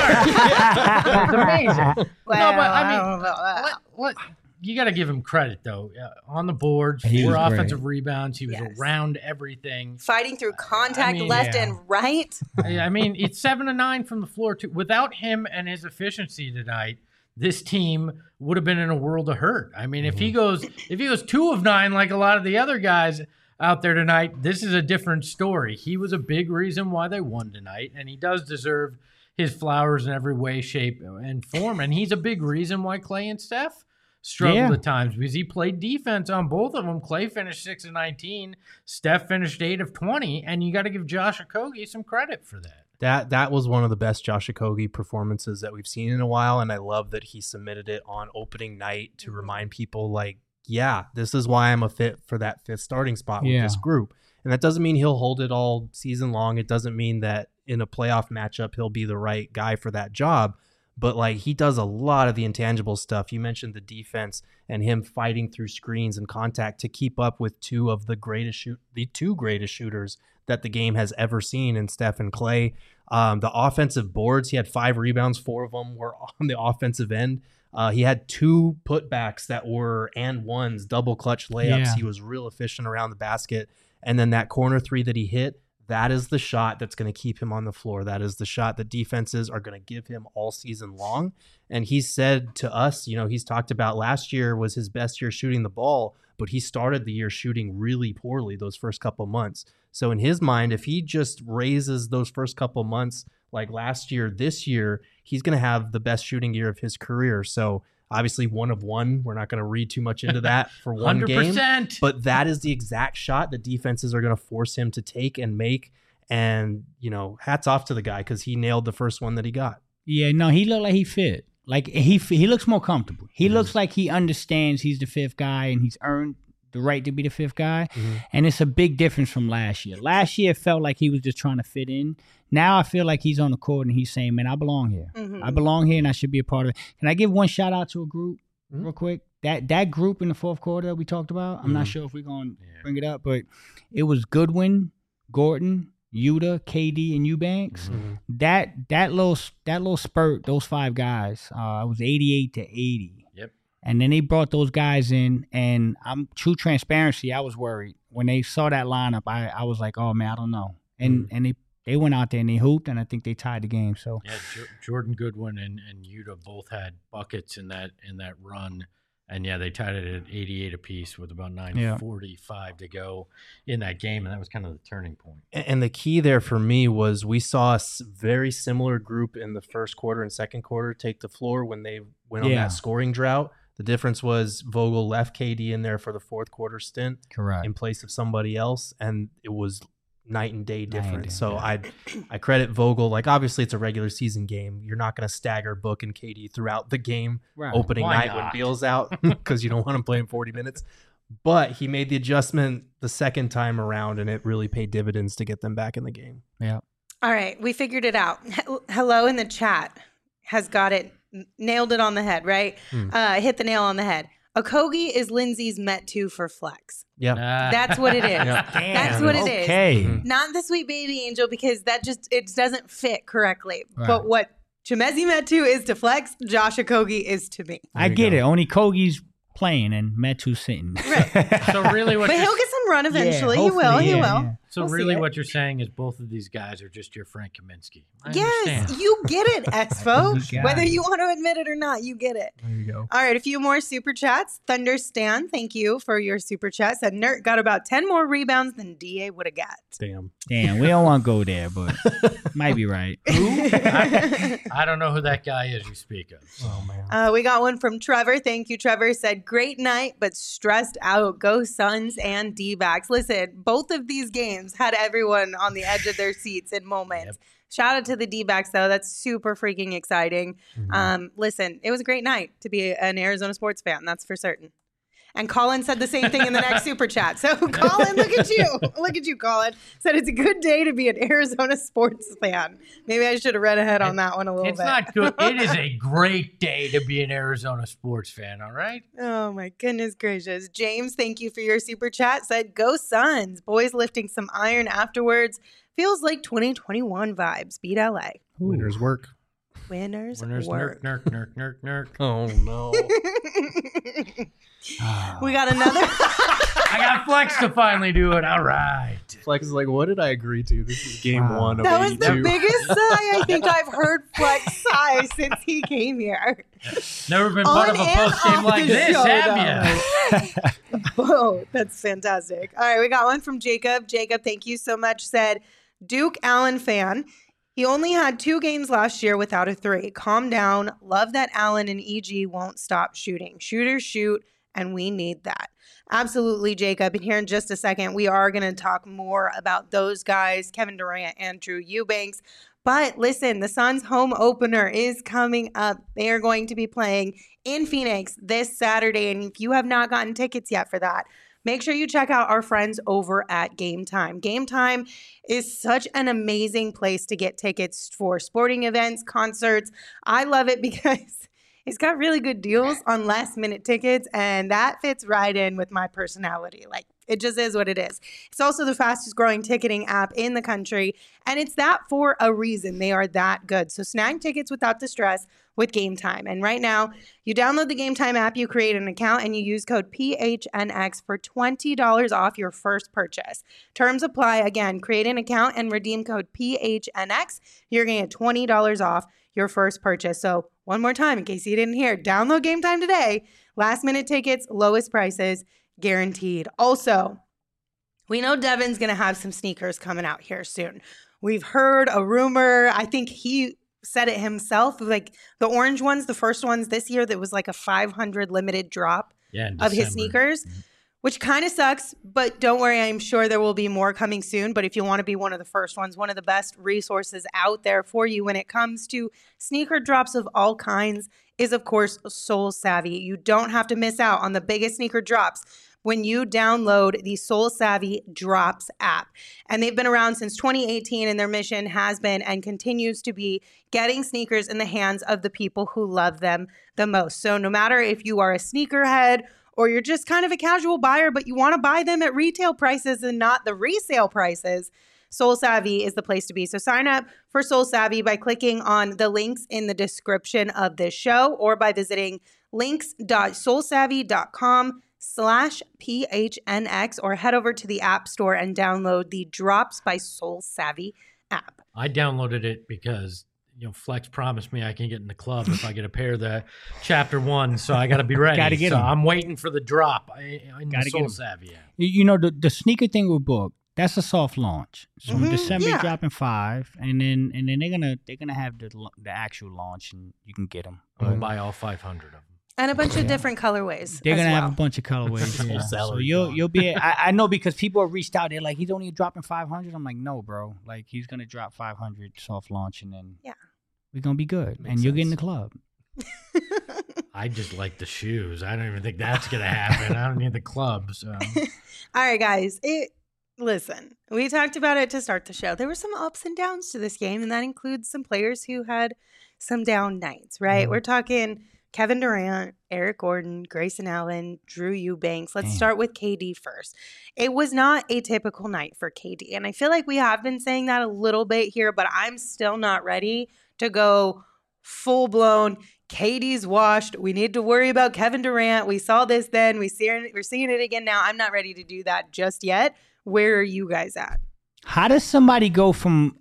That's amazing. Well, no, but I I mean, don't know that. let, let, you got to give him credit though. Uh, on the boards, He four was great. offensive rebounds. He was Yes. around everything. Fighting through contact mean, left yeah. and right. I I mean, it's seven to nine from the floor too. Without him and his efficiency tonight, this team would have been in a world of hurt. I mean, if he goes, if he goes two of nine like a lot of the other guys out there tonight, this is a different story. He was a big reason why they won tonight, and he does deserve his flowers in every way, shape, and form. And he's a big reason why Clay and Steph struggled Yeah. at times because he played defense on both of them. Clay finished six of nineteen, Steph finished eight of twenty, and you got to give Josh Okogie some credit for that. That that was one of the best Josh Okogie performances that we've seen in a while, and I love that he submitted it on opening night to remind people, like, yeah, this is why I'm a fit for that fifth starting spot with Yeah. this group. And that doesn't mean he'll hold it all season long. It doesn't mean that in a playoff matchup he'll be the right guy for that job. But like, he does a lot of the intangible stuff. You mentioned the defense and him fighting through screens and contact to keep up with two of the greatest shoot, the two greatest shooters that the game has ever seen in Steph and Clay. Um, the offensive boards, he had five rebounds, four of them were on the offensive end. Uh, he had two putbacks that were and ones, double clutch layups. Yeah. He was real efficient around the basket. And then that corner three that he hit, that is the shot that's going to keep him on the floor. That is the shot that defenses are going to give him all season long. And he said to us, you know, he's talked about last year was his best year shooting the ball, but he started the year shooting really poorly those first couple months. So in his mind, if he just raises those first couple months like last year, this year, he's going to have the best shooting year of his career. So obviously one of one, we're not going to read too much into that for one one hundred game. percent. But that is the exact shot that defenses are going to force him to take and make. And, you know, hats off to the guy because he nailed the first one that he got. Yeah, no, he looked like he fit. Like he he looks more comfortable. He looks like he understands he's the fifth guy and he's earned the right to be the fifth guy. Mm-hmm. And it's a big difference from last year. Last year it felt like he was just trying to fit in. Now I feel like he's on the court and he's saying, man, I belong here. Mhm. I belong here and I should be a part of it. Can I give one shout out to a group Mhm. real quick? That that group in the fourth quarter that we talked about, I'm not Mhm. sure if we're going to Yeah. bring it up, but it was Goodwin, Gordon, Yuta, K D, and Eubanks. Mm-hmm. That that little that little spurt, those five guys, uh, it was eighty-eight to eighty. Yep. And then they brought those guys in, and I'm true transparency. I was worried when they saw that lineup. I, I was like, oh man, I don't know. And and they they went out there and they hooped, and I think they tied the game. So Yeah, Jo- Jordan Goodwin and, and Yuta both had buckets in that in that run, and yeah, they tied it at eighty-eight apiece with about nine forty-five to go in that game, and that was kind of the turning point. And and the key there for me was we saw a s- very similar group in the first quarter and second quarter take the floor when they went on Yeah. that scoring drought. The difference was Vogel left K D in there for the fourth quarter stint correct. in place of somebody else, and it was night and day and different. day, so yeah. I I credit Vogel. Like, obviously it's a regular season game. You're not going to stagger Book and K D throughout the game Right. opening Why night when not? Beal's out because you don't want him playing forty minutes. But he made the adjustment the second time around, and it really paid dividends to get them back in the game. Yeah. All right, we figured it out. He- Hello in the chat has got it, n- nailed it on the head, right? Hmm. Uh, hit the nail on the head. Okogie is Lindsay's Met two for flex. Yeah. Ah. That's what it is. Yeah. That's what it is. Okay. Mhm. Not the sweet baby angel because that just it doesn't fit correctly. Right. But what Chimezi Metu is to flex, Josh Okogie is to me. I you get go. it. Only Kogi's playing and Metu's sitting. Right. So really, what But you're he'll get some run eventually. Yeah, he will. hopefully, He yeah, will. yeah. So We'll see really it. what you're saying is both of these guys are just your Frank Kaminsky. I Yes, understand. you get it, Expo. You got Whether it. you want to admit it or not, you get it. There you go. All right, a few more super chats. Thunder Stan, thank you for your super chat. Said Nert got about ten more rebounds than D A would have got. Damn. Damn, we don't want to go there, but might be right. I, I don't know who that guy is you speak of. Oh man. Uh, we got one from Trevor. Thank you, Trevor. Said, great night, but stressed out. Go Suns and D-backs. Listen, both of these games had everyone on the edge of their seats in moments. Yep. Shout out to the D-backs, though. That's super freaking exciting. Mhm. Um, listen, it was a great night to be an Arizona sports fan. That's for certain. And Colin said the same thing in the next super chat. So, Colin, look at you. Look at you, Colin. Said it's a good day to be an Arizona sports fan. Maybe I should have read ahead on that one a little It's bit. not good. It is a great day to be an Arizona sports fan, all right? Oh my goodness gracious. James, thank you for your super chat. Said, go Suns. Boys lifting some iron afterwards. Feels like twenty twenty-one vibes. Beat L A. Winners work. Winners, Winners, work. nerk, nerk, nerk, nerk, nerk. Oh no. We got another. I got Flex to finally do it. All right. Flex is like, what did I agree to? This is game Wow. one of That was the eighty-two. biggest sigh I think I've heard Flex sigh since he came here. Never been part On of a and post game off like the this, show, have you? Whoa, that's fantastic. All right, we got one from Jacob. Jacob, thank you so much. Said, Duke Allen fan. He only had two games last year without a three. Calm down. Love that Allen and E G won't stop shooting. Shooters shoot, and we need that. Absolutely, Jacob. And here in just a second, we are going to talk more about those guys, Kevin Durant and Drew Eubanks. But listen, the Suns' home opener is coming up. They are going to be playing in Phoenix this Saturday. And if you have not gotten tickets yet for that, make sure you check out our friends over at Game Time. Game Time is such an amazing place to get tickets for sporting events, concerts. I love it because it's got really good deals on last minute tickets, and that fits right in with my personality. Like, it just is what it is. It's also the fastest growing ticketing app in the country, and it's that for a reason. They are that good. So snag tickets without the stress with Game Time. And right now, you download the Game Time app, you create an account, and you use code P H N X for twenty dollars off your first purchase. Terms apply. Again, create an account and redeem code P H N X. You're going to get twenty dollars off your first purchase. So one more time, in case you didn't hear, download Game Time today. Last minute tickets, lowest prices, guaranteed. Also, we know Devin's going to have some sneakers coming out here soon. We've heard a rumor. I think he said it himself. Like the orange ones, the first ones this year, that was like a five hundred limited drop Yeah, in of his December. sneakers, which kind of sucks. But don't worry, I'm sure there will be more coming soon. But if you want to be one of the first ones, one of the best resources out there for you when it comes to sneaker drops of all kinds is, of course, Soul Savvy. You don't have to miss out on the biggest sneaker drops when you download the Soul Savvy Drops app. And they've been around since twenty eighteen, and their mission has been and continues to be getting sneakers in the hands of the people who love them the most. So no matter if you are a sneakerhead or you're just kind of a casual buyer, but you want to buy them at retail prices and not the resale prices, Soul Savvy is the place to be. So sign up for Soul Savvy by clicking on the links in the description of this show or by visiting links.soulsavvy.com slash PHNX or head over to the App Store and download the Drops by Soul Savvy app. I downloaded it because, you know, Flex promised me I can get in the club if I get a pair of the chapter one, so I got to be ready. Gotta get so 'em. I'm waiting for the drop in Gotta the get Soul 'em. Savvy app. You, you know, the, the sneaker thing with Book, that's a soft launch. So Mhm, in December yeah. dropping five, and then and then they're gonna they're gonna have the l- the actual launch, and you can get them. I'm going to buy all five hundred of them. And a bunch of Yeah. different colorways. They're as gonna well. have a bunch of colorways. Full yeah. So salary you'll dog. you'll be. I, I know because people have reached out. They're like, he's only dropping five hundred. I'm like, no, bro. Like he's gonna drop five hundred soft launch, and then Yeah. we're gonna be good, Makes and you'll get in the sense. club. I just like the shoes. I don't even think that's going to happen. I don't need the club. So. All right, guys. It listen, we talked about it to start the show. There were some ups and downs to this game, and that includes some players who had some down nights, right? Mhm. We're talking Kevin Durant, Eric Gordon, Grayson Allen, Drew Eubanks. Let's Damn. start with K D first. It was not a typical night for K D, and I feel like we have been saying that a little bit here, but I'm still not ready to go full blown. K D's washed. We need to worry about Kevin Durant. We saw this then. We see we're seeing it again now. I'm not ready to do that just yet. Where are you guys at? How does somebody go from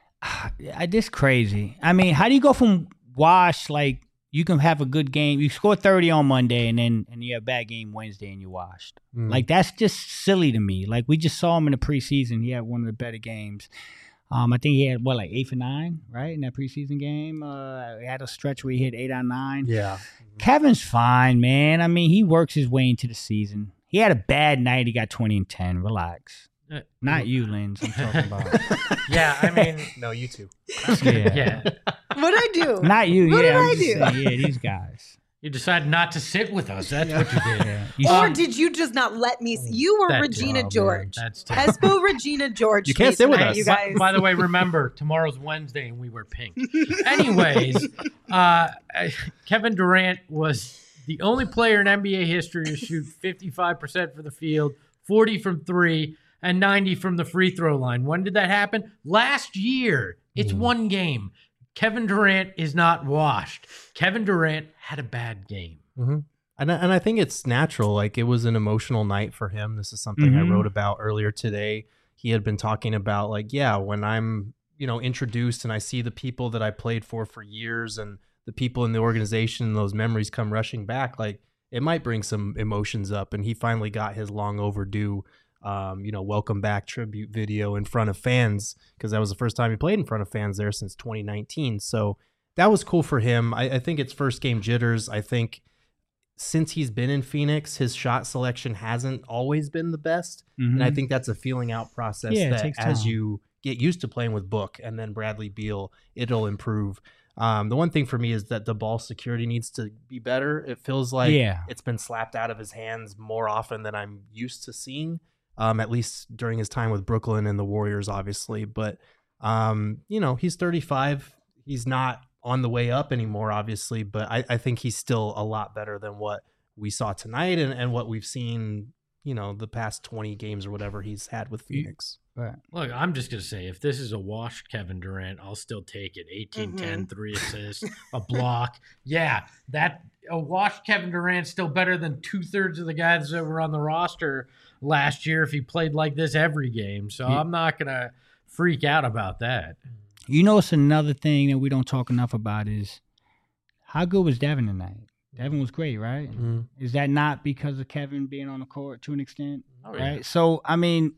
uh, this crazy? I mean, how do you go from wash like you can have a good game, you score thirty on Monday, and then and you have a bad game Wednesday and you're washed? Mm. Like that's just silly to me. Like we just saw him in the preseason. He had one of the better games. Um, I think he had what like eight for nine, right, in that preseason game. Uh, he had a stretch where he hit eight out of nine. Yeah. Kevin's fine, man. I mean, he works his way into the season. He had a bad night. He got twenty and ten. Relax. Uh, Not you, Linz. I'm talking about. Yeah, I mean, No, you too. Yeah. yeah. What'd I do? Not you. What yeah, did I'm I just do? saying, yeah, these guys. You decided not to sit with us. That's what you did. Yeah. You Or see- did you just not let me? See? You were That- Regina oh, man. George. That's terrible. Espo Regina George. You can't me sit with tonight, us. you By, guys. by the way, remember, tomorrow's Wednesday and we wear pink. Anyways, uh, Kevin Durant was the only player in N B A history to shoot fifty-five percent for the field, forty from three, and ninety from the free throw line. When did that happen? Last year. It's Mm. one game. Kevin Durant is not washed. Kevin Durant had a bad game. Mm-hmm. And I, and I think it's natural. Like it was an emotional night for him. This is something Mhm. I wrote about earlier today. He had been talking about like, yeah, when I'm, you know, introduced and I see the people that I played for for years and the people in the organization, and those memories come rushing back. Like it might bring some emotions up. And he finally got his long overdue, um, you know, welcome back tribute video in front of fans, because that was the first time he played in front of fans there since twenty nineteen. So that was cool for him. I, I think it's first game jitters. I think since he's been in Phoenix, his shot selection hasn't always been the best. Mhm. And I think that's a feeling out process Yeah, it that takes as time. you get used to playing with Book and then Bradley Beal, it'll improve. Um, the one thing for me is that the ball security needs to be better. It feels like Yeah. it's been slapped out of his hands more often than I'm used to seeing, um, at least during his time with Brooklyn and the Warriors, obviously. But, um, you know, he's thirty-five. He's not on the way up anymore, obviously, but I, I think he's still a lot better than what we saw tonight and, and what we've seen, you know, the past twenty games or whatever he's had with Phoenix. Right. Look, I'm just going to say, if this is a washed Kevin Durant, I'll still take it. eighteen ten, three assists, a block. Yeah, that a washed Kevin Durant's still better than two-thirds of the guys that were on the roster last year if he played like this every game. So Yeah. I'm not going to freak out about that. You know, it's another thing that we don't talk enough about is how good was Devin tonight? Devin was great, right? Mm-hmm. Is that not because of Kevin being on the court to an extent? Oh, yeah. Right. So, I mean,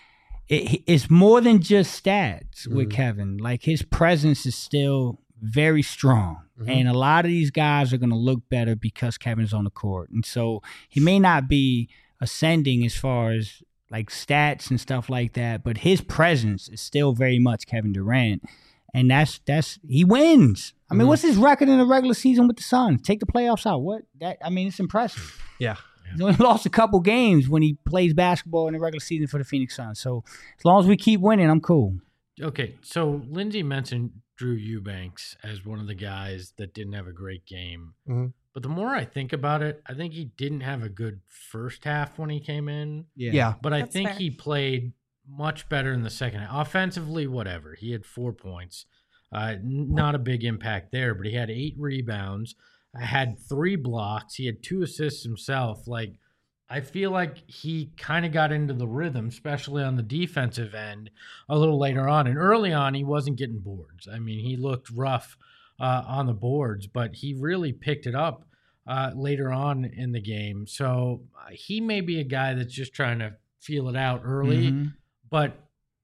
it, it's more than just stats with Mhm. Kevin. Like his presence is still very strong. Mhm. And a lot of these guys are going to look better because Kevin's on the court. And so he may not be ascending as far as like stats and stuff like that, but his presence is still very much Kevin Durant. And that's that's he wins. I mean, Mhm. what's his record in the regular season with the Suns? Take the playoffs out. What that I mean, it's impressive. Yeah. He's only lost a couple games when he plays basketball in the regular season for the Phoenix Suns. So as long as we keep winning, I'm cool. Okay, so Lindsay mentioned Drew Eubanks as one of the guys that didn't have a great game. Mhm. But the more I think about it, I think he didn't have a good first half when he came in. Yeah. But I That's think fair. he played much better in the second half. Offensively, whatever. He had four points. Uh, n- not a big impact there, but he had eight rebounds, had three blocks. He had two assists himself. Like, I feel like he kind of got into the rhythm, especially on the defensive end, a little later on. And early on, he wasn't getting boards. I mean, he looked rough uh, on the boards, but he really picked it up uh, later on in the game. So uh, he may be a guy that's just trying to feel it out early, Mhm. but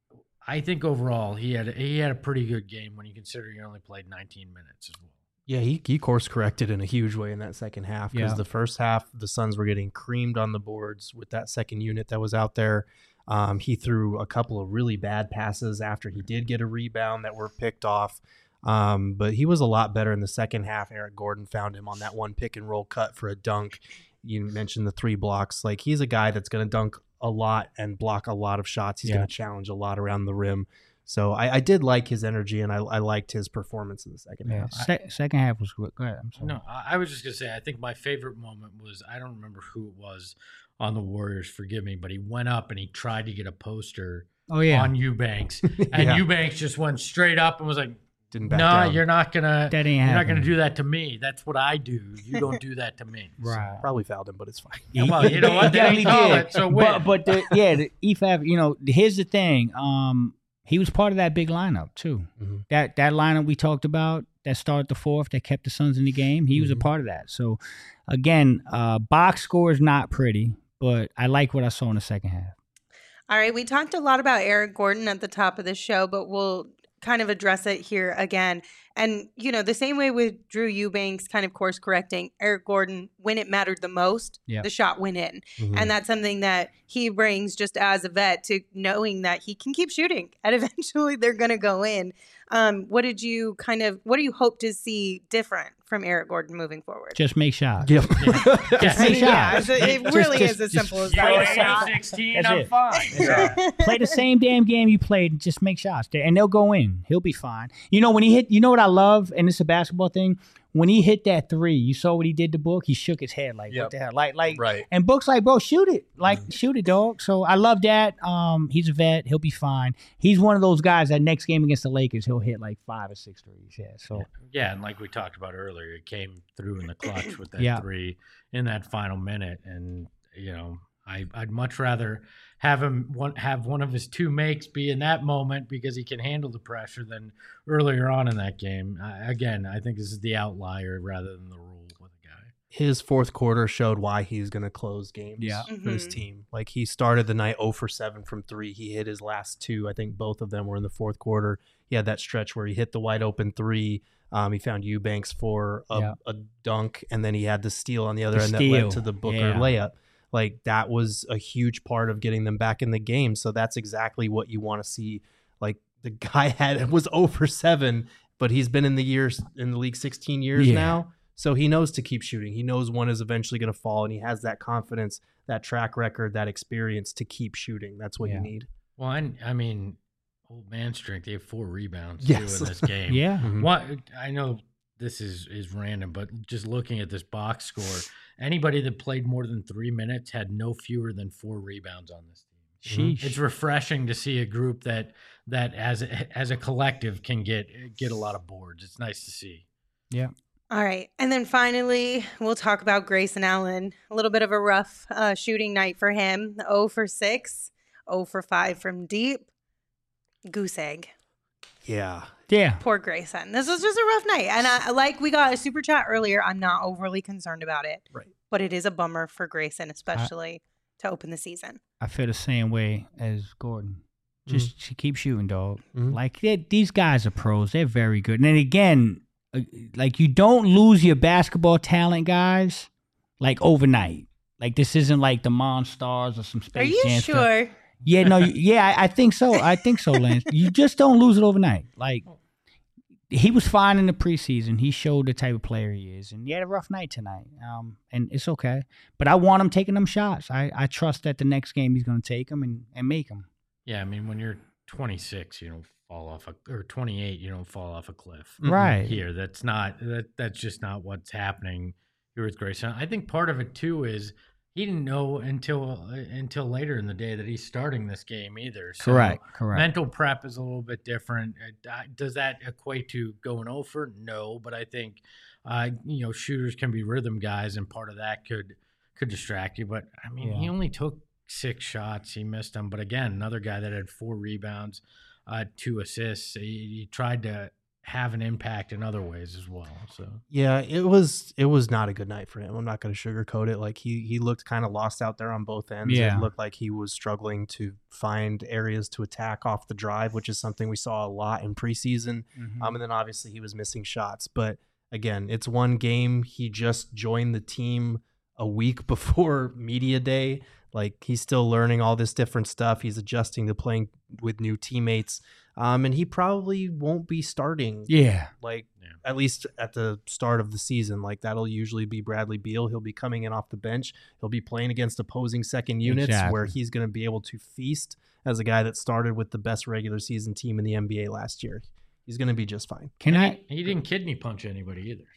I think overall he had he had a pretty good game when you consider he only played nineteen minutes as well. Yeah, he, he course corrected in a huge way in that second half because Yeah. the first half, the Suns were getting creamed on the boards with that second unit that was out there. Um, he threw a couple of really bad passes after he did get a rebound that were picked off. Um, but he was a lot better in the second half. Eric Gordon found him on that one pick and roll cut for a dunk. You mentioned the three blocks. Like he's a guy that's going to dunk a lot and block a lot of shots. He's Yeah. going to challenge a lot around the rim. So I, I did like his energy and I, I liked his performance in the second Yeah. half. Se- second half was good. Go ahead. I'm sorry. No, I, I was just gonna say I think my favorite moment was I don't remember who it was on the Warriors. Forgive me, but he went up and he tried to get a poster Oh yeah. on Eubanks, and Yeah. Eubanks just went straight up and was like, didn't back No, down. you're not gonna. That ain't You're not happening. gonna do that to me. That's what I do. You don't do that to me. Right. Probably fouled him, but it's fine. Yeah, well, you know what? They Yeah, didn't he call did. it, so win. But, but the, yeah, the E F A B, you know, here's the thing. Um, he was part of that big lineup too. Mhm. That that lineup we talked about that started the fourth, that kept the Suns in the game. He was a Mhm. part of that. So again, uh, box score is not pretty, but I like what I saw in the second half. All right, we talked a lot about Eric Gordon at the top of the show, but we'll kind of address it here again. And, you know, the same way with Drew Eubanks kind of course correcting, Eric Gordon, when it mattered the most, Yeah. the shot went in. Mhm. And that's something that he brings just as a vet to knowing that he can keep shooting and eventually they're going to go in. Um, what did you kind of, what do you hope to see different from Eric Gordon moving forward? Just make shots. Yep. Yeah. Make yeah, shots. it's- it Just- really just- is as just simple as You play that. the ain't shot. sixteen, That's I'm it. fine. Yeah. Play the same damn game you played. Just make shots, and they'll go in. He'll be fine. You know when he hit. You know what I love, and it's a basketball thing. When he hit that three, you saw what he did to Book. He shook his head like, Yep. "What the hell?" Like, like, Right. And Book's like, "Bro, shoot it! Like, shoot it, dog." So I love that. Um, he's a vet. He'll be fine. He's one of those guys that next game against the Lakers, he'll hit like five or six threes. Yeah. So Yeah, and like we talked about earlier, it came through in the clutch with that Yeah. three in that final minute, and you know, I I'd much rather have him one have one of his two makes be in that moment because he can handle the pressure than earlier on in that game. I, again, I think this is the outlier rather than the rule with a guy. His fourth quarter showed why he's going to close games Yeah. for his Mhm. team. Like he started the night zero for seven from three. He hit his last two. I think both of them were in the fourth quarter. He had that stretch where he hit the wide open three. Um, he found Eubanks for a, Yeah. a dunk, and then he had the steal on the other The end that steal. led to the Booker Yeah. layup. Like that was a huge part of getting them back in the game. So that's exactly what you want to see. Like the guy had was zero for seven, but he's been in the years in the league sixteen years Yeah. now. So he knows to keep shooting. He knows one is eventually going to fall, and he has that confidence, that track record, that experience to keep shooting. That's what Yeah. you need. Well, I, I mean, old man strength. They have four rebounds Yes. too in this game. yeah. Mhm. What I know this is is random, but just looking at this box score, anybody that played more than three minutes had no fewer than four rebounds on this team. Sheesh. It's refreshing to see a group that that as a, as a collective can get get a lot of boards. It's nice to see. All right. And then finally, we'll talk about Grayson Allen. A little bit of a rough uh, shooting night for him. zero for six, zero for five from deep. Goose egg. Yeah. Yeah. Poor Grayson. This was just a rough night. And I, like we got a super chat earlier, I'm not overly concerned about it. Right. But it is a bummer for Grayson, especially to open the season. I feel the same way as Gordon. Just Mm-hmm. keep shooting, dog. Mhm. Like they- these guys are pros. They're very good. And then again, uh, like you don't lose your basketball talent, guys, like overnight. Like this isn't like the Monstars or some Space Are you Jam stuff. sure? Yeah, no, you- yeah, I, I think so. I think so, Lance. You just don't lose it overnight. Like he was fine in the preseason. He showed the type of player he is, and he had a rough night tonight. Um, and it's okay. But I want him taking them shots. I, I trust that the next game he's going to take them and, and make them. Yeah, I mean when you're twenty-six, you don't fall off a or twenty-eight, you don't fall off a cliff. Mhm. Right. Here, that's not that that's just not what's happening here with Grayson. I think part of it too is he didn't know until uh, until later in the day that he's starting this game either. So Correct. Correct. mental prep is a little bit different. Uh, uh, Does that equate to going over? No, but I think uh, you know shooters can be rhythm guys, and part of that could could distract you. But I mean, he Yeah. only took six shots. He missed them. But again, another guy that had four rebounds, uh, two assists. He, he tried to have an impact in other ways as well. So Yeah, it was it was not a good night for him. I'm not going to sugarcoat it. Like he he looked kind of lost out there on both ends. Yeah. It looked like he was struggling to find areas to attack off the drive, which is something we saw a lot in preseason. Mhm. Um, and then obviously he was missing shots. But again, it's one game. He just joined the team a week before media day. Like he's still learning all this different stuff. He's adjusting to playing with new teammates. Um, and he probably won't be starting Yeah. like Yeah. at least at the start of the season. Like that'll usually be Bradley Beal. He'll be coming in off the bench. He'll be playing against opposing second units Exactly. where he's going to be able to feast as a guy that started with the best regular season team in the N B A last year. He's going to be just fine. Can And I? He, he didn't kidney punch anybody either. So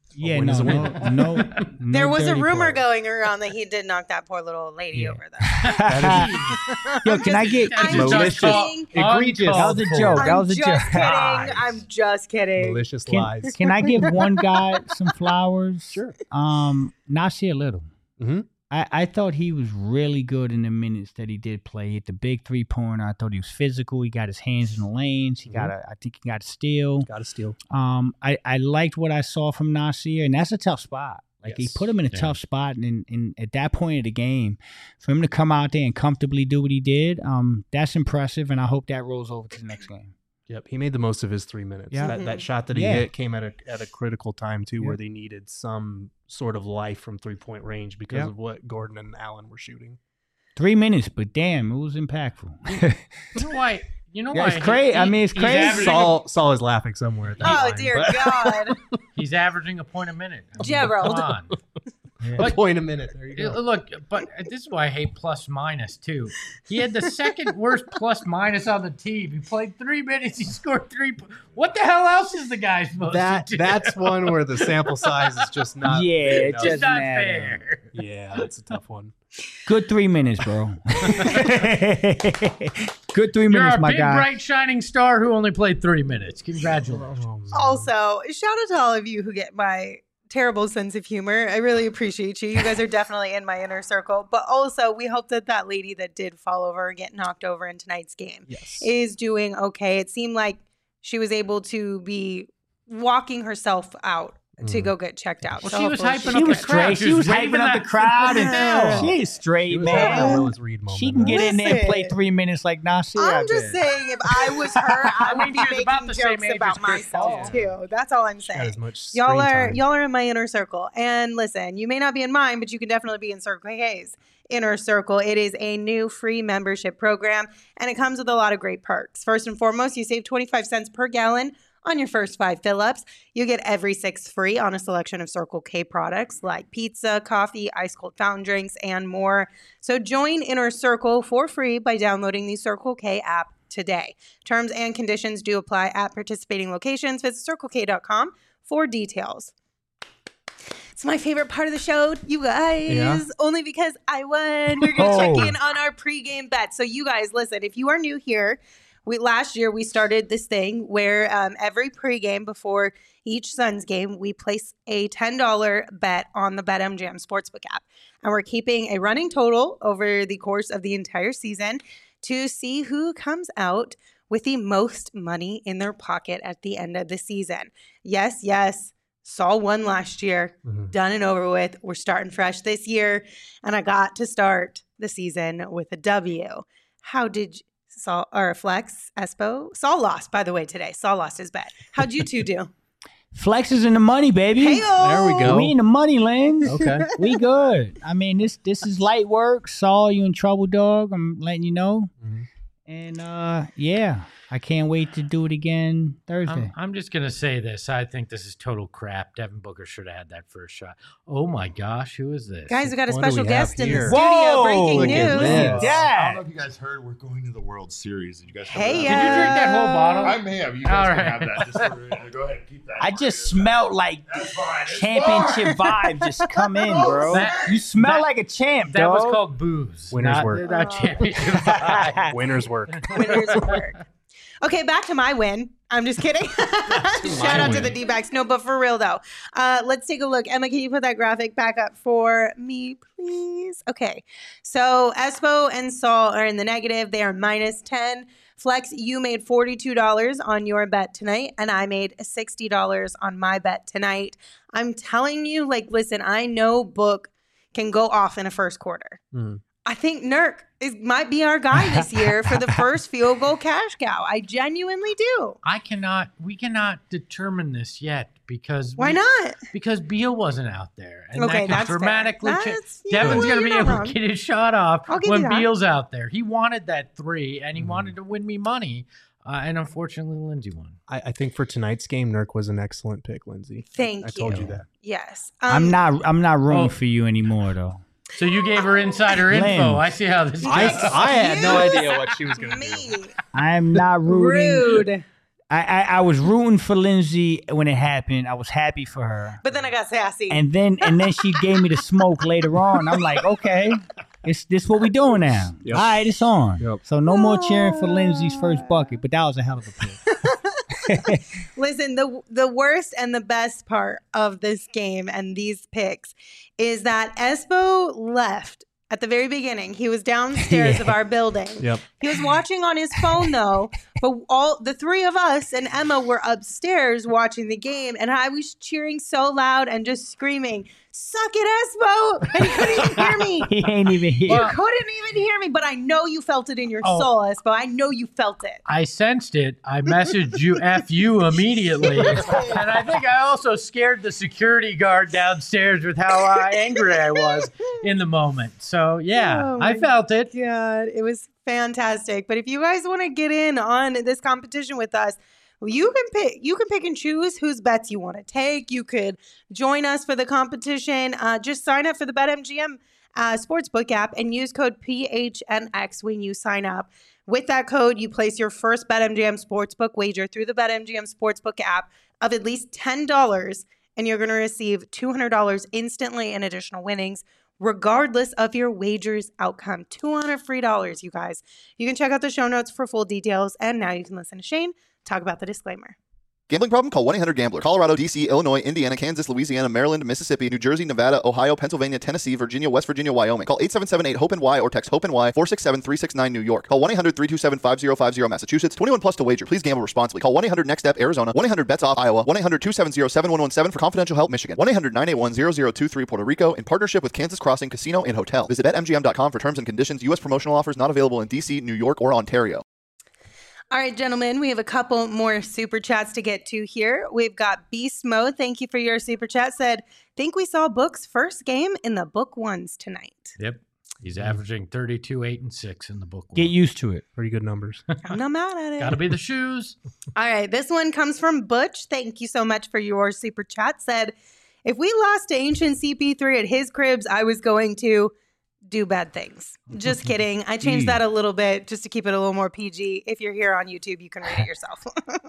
Yeah, win no, is a no, win. no, no. There was a dirty rumor plays. going around that he did knock that poor little lady Yeah. over there. Yo, can I get? I'm Malicious. just kidding. Egregious. That was a joke. That I'm was a just joke. kidding. I'm just kidding. Malicious Can, lies. can I give one guy some flowers? Sure. Um, Nasir Little. Mm-hmm. I, I thought he was really good in the minutes that he did play. He hit the big three pointer. I thought he was physical. He got his hands in the lanes. He got a, I think he got a steal. Got to steal. Um, I, I liked what I saw from Nasir, and that's a tough spot. Like Yes. he put him in a Yeah. tough spot, and, and, and at that point of the game, for him to come out there and comfortably do what he did, um, that's impressive. And I hope that rolls over to the next game. Yep, he made the most of his three minutes. Yeah. That, that shot that he Yeah. hit came at a at a critical time too, Yeah. where they needed some sort of life from three point range because Yeah. of what Gordon and Allen were shooting. Three minutes, but damn, it was impactful. You know why? You know Yeah, why? it's crazy. he- I mean, it's he's crazy. averaging a- Saul Saul is laughing somewhere at that. Oh line, dear but- God, He's averaging a point a minute. I mean, Gerald. Come on. a point a minute. There you Yeah, go. Look, but this is why I hate plus minus too. He had the second worst plus minus on the team. He played three minutes. He scored three. po- What the hell else is the guy supposed That to do? that's one where the sample size is just not. Yeah, big it enough. just doesn't not matter. fair. Yeah, that's a tough one. Good three minutes, bro. Good three You're minutes, a my big, guy. bright, shining star who only played three minutes. Congratulations. Oh, man. Also, shout out to all of you who get my terrible sense of humor. I really appreciate you. You guys are definitely in my inner circle. But also, we hope that that lady that did fall over and get knocked over in tonight's game Yes. is doing okay. It seemed like she was able to be walking herself out to Mhm. go get checked out. Well, So she was hopefully hyping she's up She the was good. crowd. straight. She was waving hyping up the that- crowd. What the hell? And she is straight, She was having that man. Willis Reed moment. She can get in there and play Listen. three minutes like Nasir. I I'm just bet. saying, if I was her, I I would mean, be she was about making the same jokes age as about Chris myself Paul. too. That's all I'm Got saying. as much Y'all screen are time. y'all are in my inner circle. And listen, you may not be in mine, but you can definitely be in Circle K's inner circle. It is a new free membership program, and it comes with a lot of great perks. First and foremost, you save twenty-five cents per gallon on your first five fill-ups. You get every six free on a selection of Circle K products like pizza, coffee, ice cold fountain drinks, and more. So join Inner Circle for free by downloading the Circle K app today. Terms and conditions do apply at participating locations. Visit circle k dot com for details. It's my favorite part of the show, you guys. Yeah? Only because I won. We're going to Oh. check in on our pregame bet. So you guys, listen, if you are new here, we last year we started this thing where um, every pregame before each Suns game, we place a ten dollars bet on the BetMGM Sportsbook app. And we're keeping a running total over the course of the entire season to see who comes out with the most money in their pocket at the end of the season. Yes, yes. Saw one last year, Mhm. done and over with. We're starting fresh this year, and I got to start the season with a W. How did you, Saul or Flex Espo? Saul lost, by the way, today. Saul lost his bet. How'd you two do? Flex is in the money, baby. Hey-o! There we go. We in the money, Lens. Okay. We good. I mean, this this is light work. Saul, you in trouble, dog. I'm letting you know. Mhm. And uh, yeah, I can't wait to do it again Thursday. I'm, I'm just going to say this. I think this is total crap. Devin Booker should have had that first shot. Oh, my gosh. Who is this? Guys, we got a What do special we have guest in the here? studio. Whoa, Breaking look at news. this. I don't know if you guys heard. We're going to the World Series. Did you guys? Hey, Did you yeah. drink that whole bottle? I may have. You All guys right. can have that. Just for, uh, go ahead and keep that. I part. just smelled like That's fine. It's championship fine. vibe just come in, bro. That- you smell that- like a champ, That dog. was called booze. Winner's not, work. Not championship vibe. Winner's work. Winners work. Okay, back to my win. I'm just kidding. Shout out to the D-backs. No, but for real though. Uh, let's take a look. Emma, can you put that graphic back up for me, please? Okay. So Espo and Saul are in the negative. They are minus ten. Flex, you made forty-two dollars on your bet tonight, and I made sixty dollars on my bet tonight. I'm telling you, like, listen, I know Book can go off in a first quarter. Mhm. I think Nurk is might be our guy this year for the first field goal cash cow. I genuinely do. I cannot, we cannot determine this yet because. Why we- not? Because Beal wasn't out there. And Okay, that that's could fair. dramatically change. That's- yeah, Devin's well, going to be you're not able wrong. to get his shot off I'll give when you that. Beal's out there. He wanted that three, and he Mhm. wanted to win me money. Uh, and unfortunately, Lindsay won. I, I think for tonight's game, Nurk was an excellent pick, Lindsay. Thank I told you. you that. Yes. I'm Um, not. I'm not rooting Oh. for you anymore, though. So you gave her insider info. Lynn. I see how this goes. I, I had no Excuse idea what she was going to me. do. I'm not rooting. Rude. I, I I was rooting for Lindsay when it happened. I was happy for her. But then I got sassy. And then and then she gave me the smoke later on. I'm like, okay, it's this what we doing now. Yep. All right, it's on. Yep. So no more cheering for Lindsay's first bucket, but that was a hell of a pick. Listen, the the worst and the best part of this game and these picks is that Espo left at the very beginning. He was downstairs Yeah. of our building. Yep. He was watching on his phone though, but all the three of us and Emma were upstairs watching the game, and I was cheering so loud and just screaming, "Suck it, Espo!" And he couldn't even hear me. He ain't even here. You couldn't even hear me, but I know you felt it in your Oh. soul, Espo. I know you felt it. I sensed it. I messaged you F you immediately. And I think I also scared the security guard downstairs with how uh, angry I was in the moment. So, yeah, Oh, I my felt it. God, it was fantastic. But if you guys want to get in on this competition with us, you can pick. You can pick and choose whose bets you want to take. You could join us for the competition. Uh, just sign up for the BetMGM uh, Sportsbook app and use code P H N X when you sign up. With that code, you place your first BetMGM Sportsbook wager through the BetMGM Sportsbook app of at least ten dollars, and you're going to receive two hundred dollars instantly in additional winnings, regardless of your wager's outcome. two hundred free dollars, you guys. You can check out the show notes for full details, and now you can listen to Shane talk about the disclaimer. Gambling problem? Call one eight hundred gambler. Colorado, D C, Illinois, Indiana, Kansas, Louisiana, Maryland, Mississippi, New Jersey, Nevada, Ohio, Pennsylvania, Tennessee, Virginia, West Virginia, Wyoming. Call eight seven seven eight hope N Y or text HOPE-NY four six seven three six nine New York. Call one eight hundred three two seven five zero five zero Massachusetts. twenty-one plus to wager. Please gamble responsibly. Call one eight hundred next step Arizona. one eight hundred bets off Iowa. one eight hundred two seven zero seven one one seven for confidential help Michigan. one eight hundred nine eight one zero zero two three Puerto Rico in partnership with Kansas Crossing Casino and Hotel. Visit bet M G M dot com for terms and conditions. U S promotional offers not available in D C, New York, or Ontario. All right, gentlemen, we have a couple more super chats to get to here. We've got Beast Mode. Thank you for your super chat. Said, think we saw Book's first game in the Book Ones tonight. Yep. He's averaging thirty-two, eight, and six in the book. Get used to it. Pretty good numbers. I'm not mad at it. Got to be the shoes. All right, this one comes from Butch. Thank you so much for your super chat. Said, if we lost to Ancient C P three at his cribs, I was going to do bad things. Just kidding. I changed that a little bit just to keep it a little more P G. If you're here on YouTube, you can read it yourself.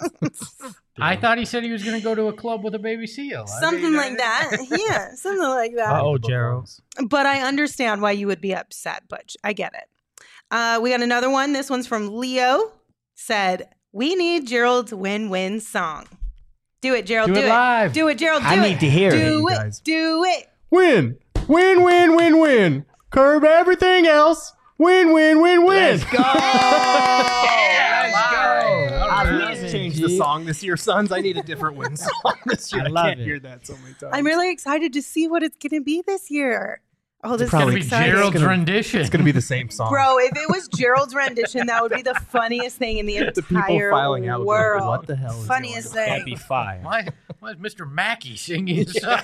I thought he said he was going to go to a club with a baby seal. I Something mean, like that. Yeah, something like that. Oh, Gerald. But I understand why you would be upset, Butch. I get it. Uh, we got another one. This one's from Leo. Said, we need Gerald's win-win song. Do it, Gerald. Do Do, it live. Do it, Gerald. Do I it. need to hear it, do you it. guys. Do it. Win. Win, win, win, win. Curb everything else. Win, win, win, win. Let's go. Yeah, Let's live. go. All I right. need to change the song this year, sons. I need a different win song this year. I I, love can't it. hear that so many times. I'm really excited to see what it's going to be this year. Oh, this is probably going It's to going be to be exciting. Gerald's gonna- rendition. It's going to be the same song. Bro, if it was Gerald's rendition, that would be the funniest thing in the entire The people filing out would be like, world. what the hell is Funniest going on? That'd thing. be fire. Why, why is Mister Mackey singing his song?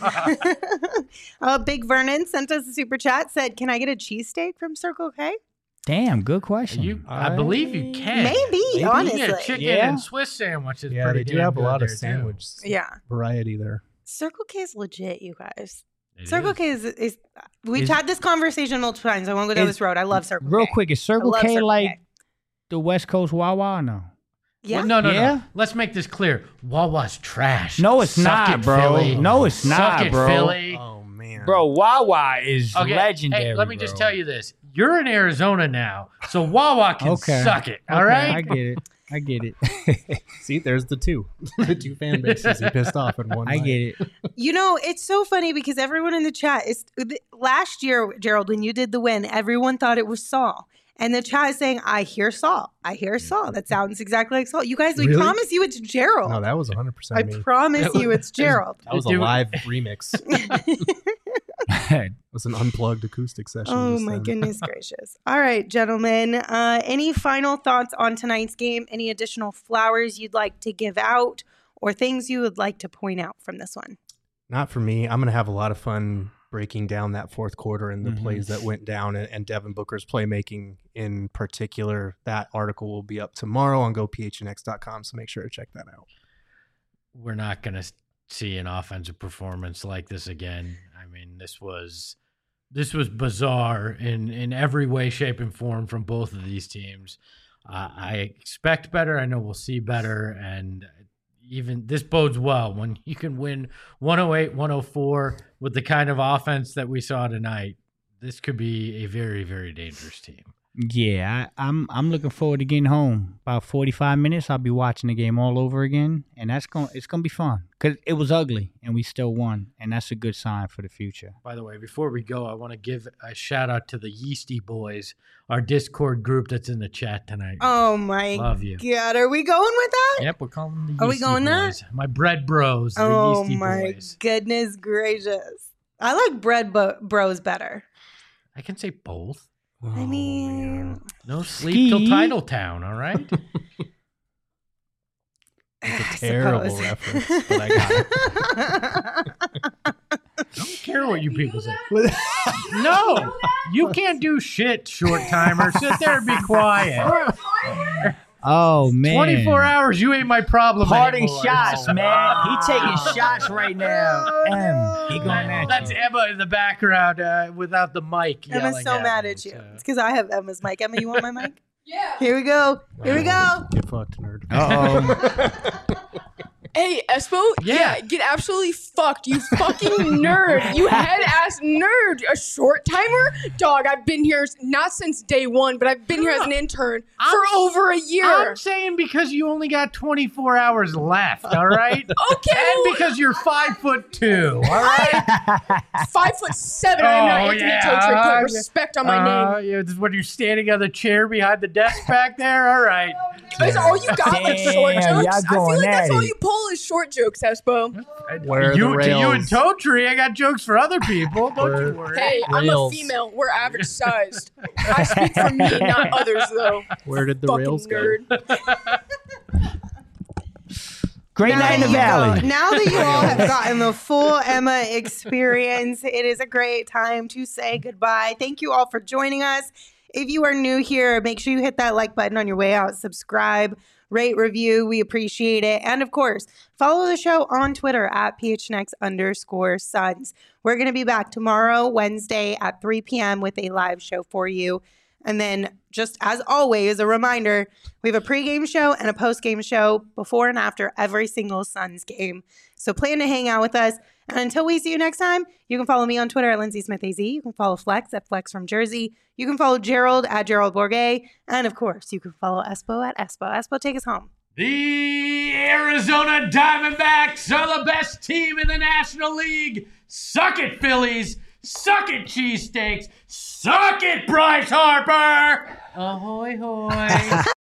uh, Big Vernon sent us a super chat. Said, "Can I get a cheesesteak from Circle K?" Damn, good question. You, I believe you can. Maybe, You honestly. can get chicken Yeah. and Swiss sandwiches. Yeah, pretty they do damn have a good lot of there, too. sandwich Yeah, variety there. Circle K is legit, you guys. It Circle is. K is is. We've Is- had this conversation multiple times. I won't go down Is- this road. I love Circle Real K. quick, is Circle I love K Circle like K. the West Coast Wawa or no? Yeah. Well, no, no, Yeah? no. Let's make this clear. Wawa's trash. No, it's Suck not, it, bro. Philly. No, it's Suck not, it, bro. Philly. Oh, man. Bro, Wawa is Okay, legendary. hey, let me just bro. tell you this. You're in Arizona now, so Wawa can Okay. suck it. All Okay, right? I get it. I get it. See, there's the two. the two fan bases he pissed off in one I night. get it. You know, it's so funny because everyone in the chat is last year, Gerald, when you did the win, everyone thought it was Saul. And the chat is saying, I hear Saul. I hear Saul. That sounds exactly like Saul. You guys, we Really? promise you it's Gerald. No, that was one hundred percent I me. promise you it's Gerald. That was a Dude. live remix. It was an unplugged acoustic session. Oh just my then. goodness gracious. All right, gentlemen. Uh, any final thoughts on tonight's game? Any additional flowers you'd like to give out or things you would like to point out from this one? Not for me. I'm going to have a lot of fun breaking down that fourth quarter and the Mhm. plays that went down and, and Devin Booker's playmaking in particular. That article will be up tomorrow on go p h n x dot com, so make sure to check that out. We're not going to see an offensive performance like this again. I mean, this was this was bizarre in in every way, shape, and form from both of these teams. Uh, I expect better. I know we'll see better. And even this bodes well when you can win one oh eight, one oh four with the kind of offense that we saw tonight. This could be a very, very dangerous team. Yeah, I, I'm I'm looking forward to getting home. About forty-five minutes, I'll be watching the game all over again, and that's going it's going to be fun because it was ugly and we still won, and that's a good sign for the future. By the way, before we go, I want to give a shout out to the Yeasty Boys, our Discord group that's in the chat tonight. Oh my Love you. God, are we going with that? Yep, we're calling them the Are Yeasty we going there? Boys. My bread bros, the Oh Yeasty my Boys. goodness gracious! I like bread bo- bros better. I can say both. I mean, No sleep till Ski. Title Town, all right? It's I a terrible suppose. reference, but I got it. I don't care what you people say. No, you can't do shit, short timer. Sit there and be quiet. Oh man, twenty-four hours, you ain't my problem Parting anymore. shots, Oh. man. He taking shots right now. Oh, M, no. he going at That's you. Emma in the background uh, without the mic. Emma's yelling so mad me, at you. so. It's because I have Emma's mic. Emma, you want my mic? Yeah. Here we go. Here we go. Get fucked, nerd. Uh oh. Hey, Espo. Yeah. Get absolutely fucked. You fucking nerd. You head ass nerd. A short timer? Dog, I've been here not since day one, but I've been here as an intern I'm- for over a year. I'm saying because you only got twenty-four hours left, all right? Okay. And well, because you're five foot two, all right? five foot seven. I'm not Oh, Anthony yeah. Totri. Put respect on my Uh, name. yeah, this is when you're standing on the chair behind the desk back there. All right. Is all you got like short Damn, jokes? y'all I feel going like that's at all it. you pull is short jokes, Espo. Where are you, the to you and rails? Totri, I got jokes for other people. Don't you Where- worry. Hey, I'm a Rails. female. We're average sized. I speak for me, not others, though. Where did the Fucking rails go? nerd. Great night in the you valley. go- now that you all have gotten the full Emma experience, it is a great time to say goodbye. Thank you all for joining us. If you are new here, make sure you hit that like button on your way out, subscribe, rate, review. We appreciate it. And of course, follow the show on Twitter at phnx underscore Suns. We're going to be back tomorrow, Wednesday at three p.m. with a live show for you. And then, just as always, a reminder, we have a pregame show and a postgame show before and after every single Suns game. So plan to hang out with us. And until we see you next time, you can follow me on Twitter at Lindsay Smith A Z. You can follow Flex at Flex from Jersey. You can follow Gerald at Gerald Bourget. And of course, you can follow Espo at Espo. Espo, take us home. The Arizona Diamondbacks are the best team in the National League. Suck it, Phillies. Suck it, cheesesteaks. Suck it, Bryce Harper. Ahoy, hoy.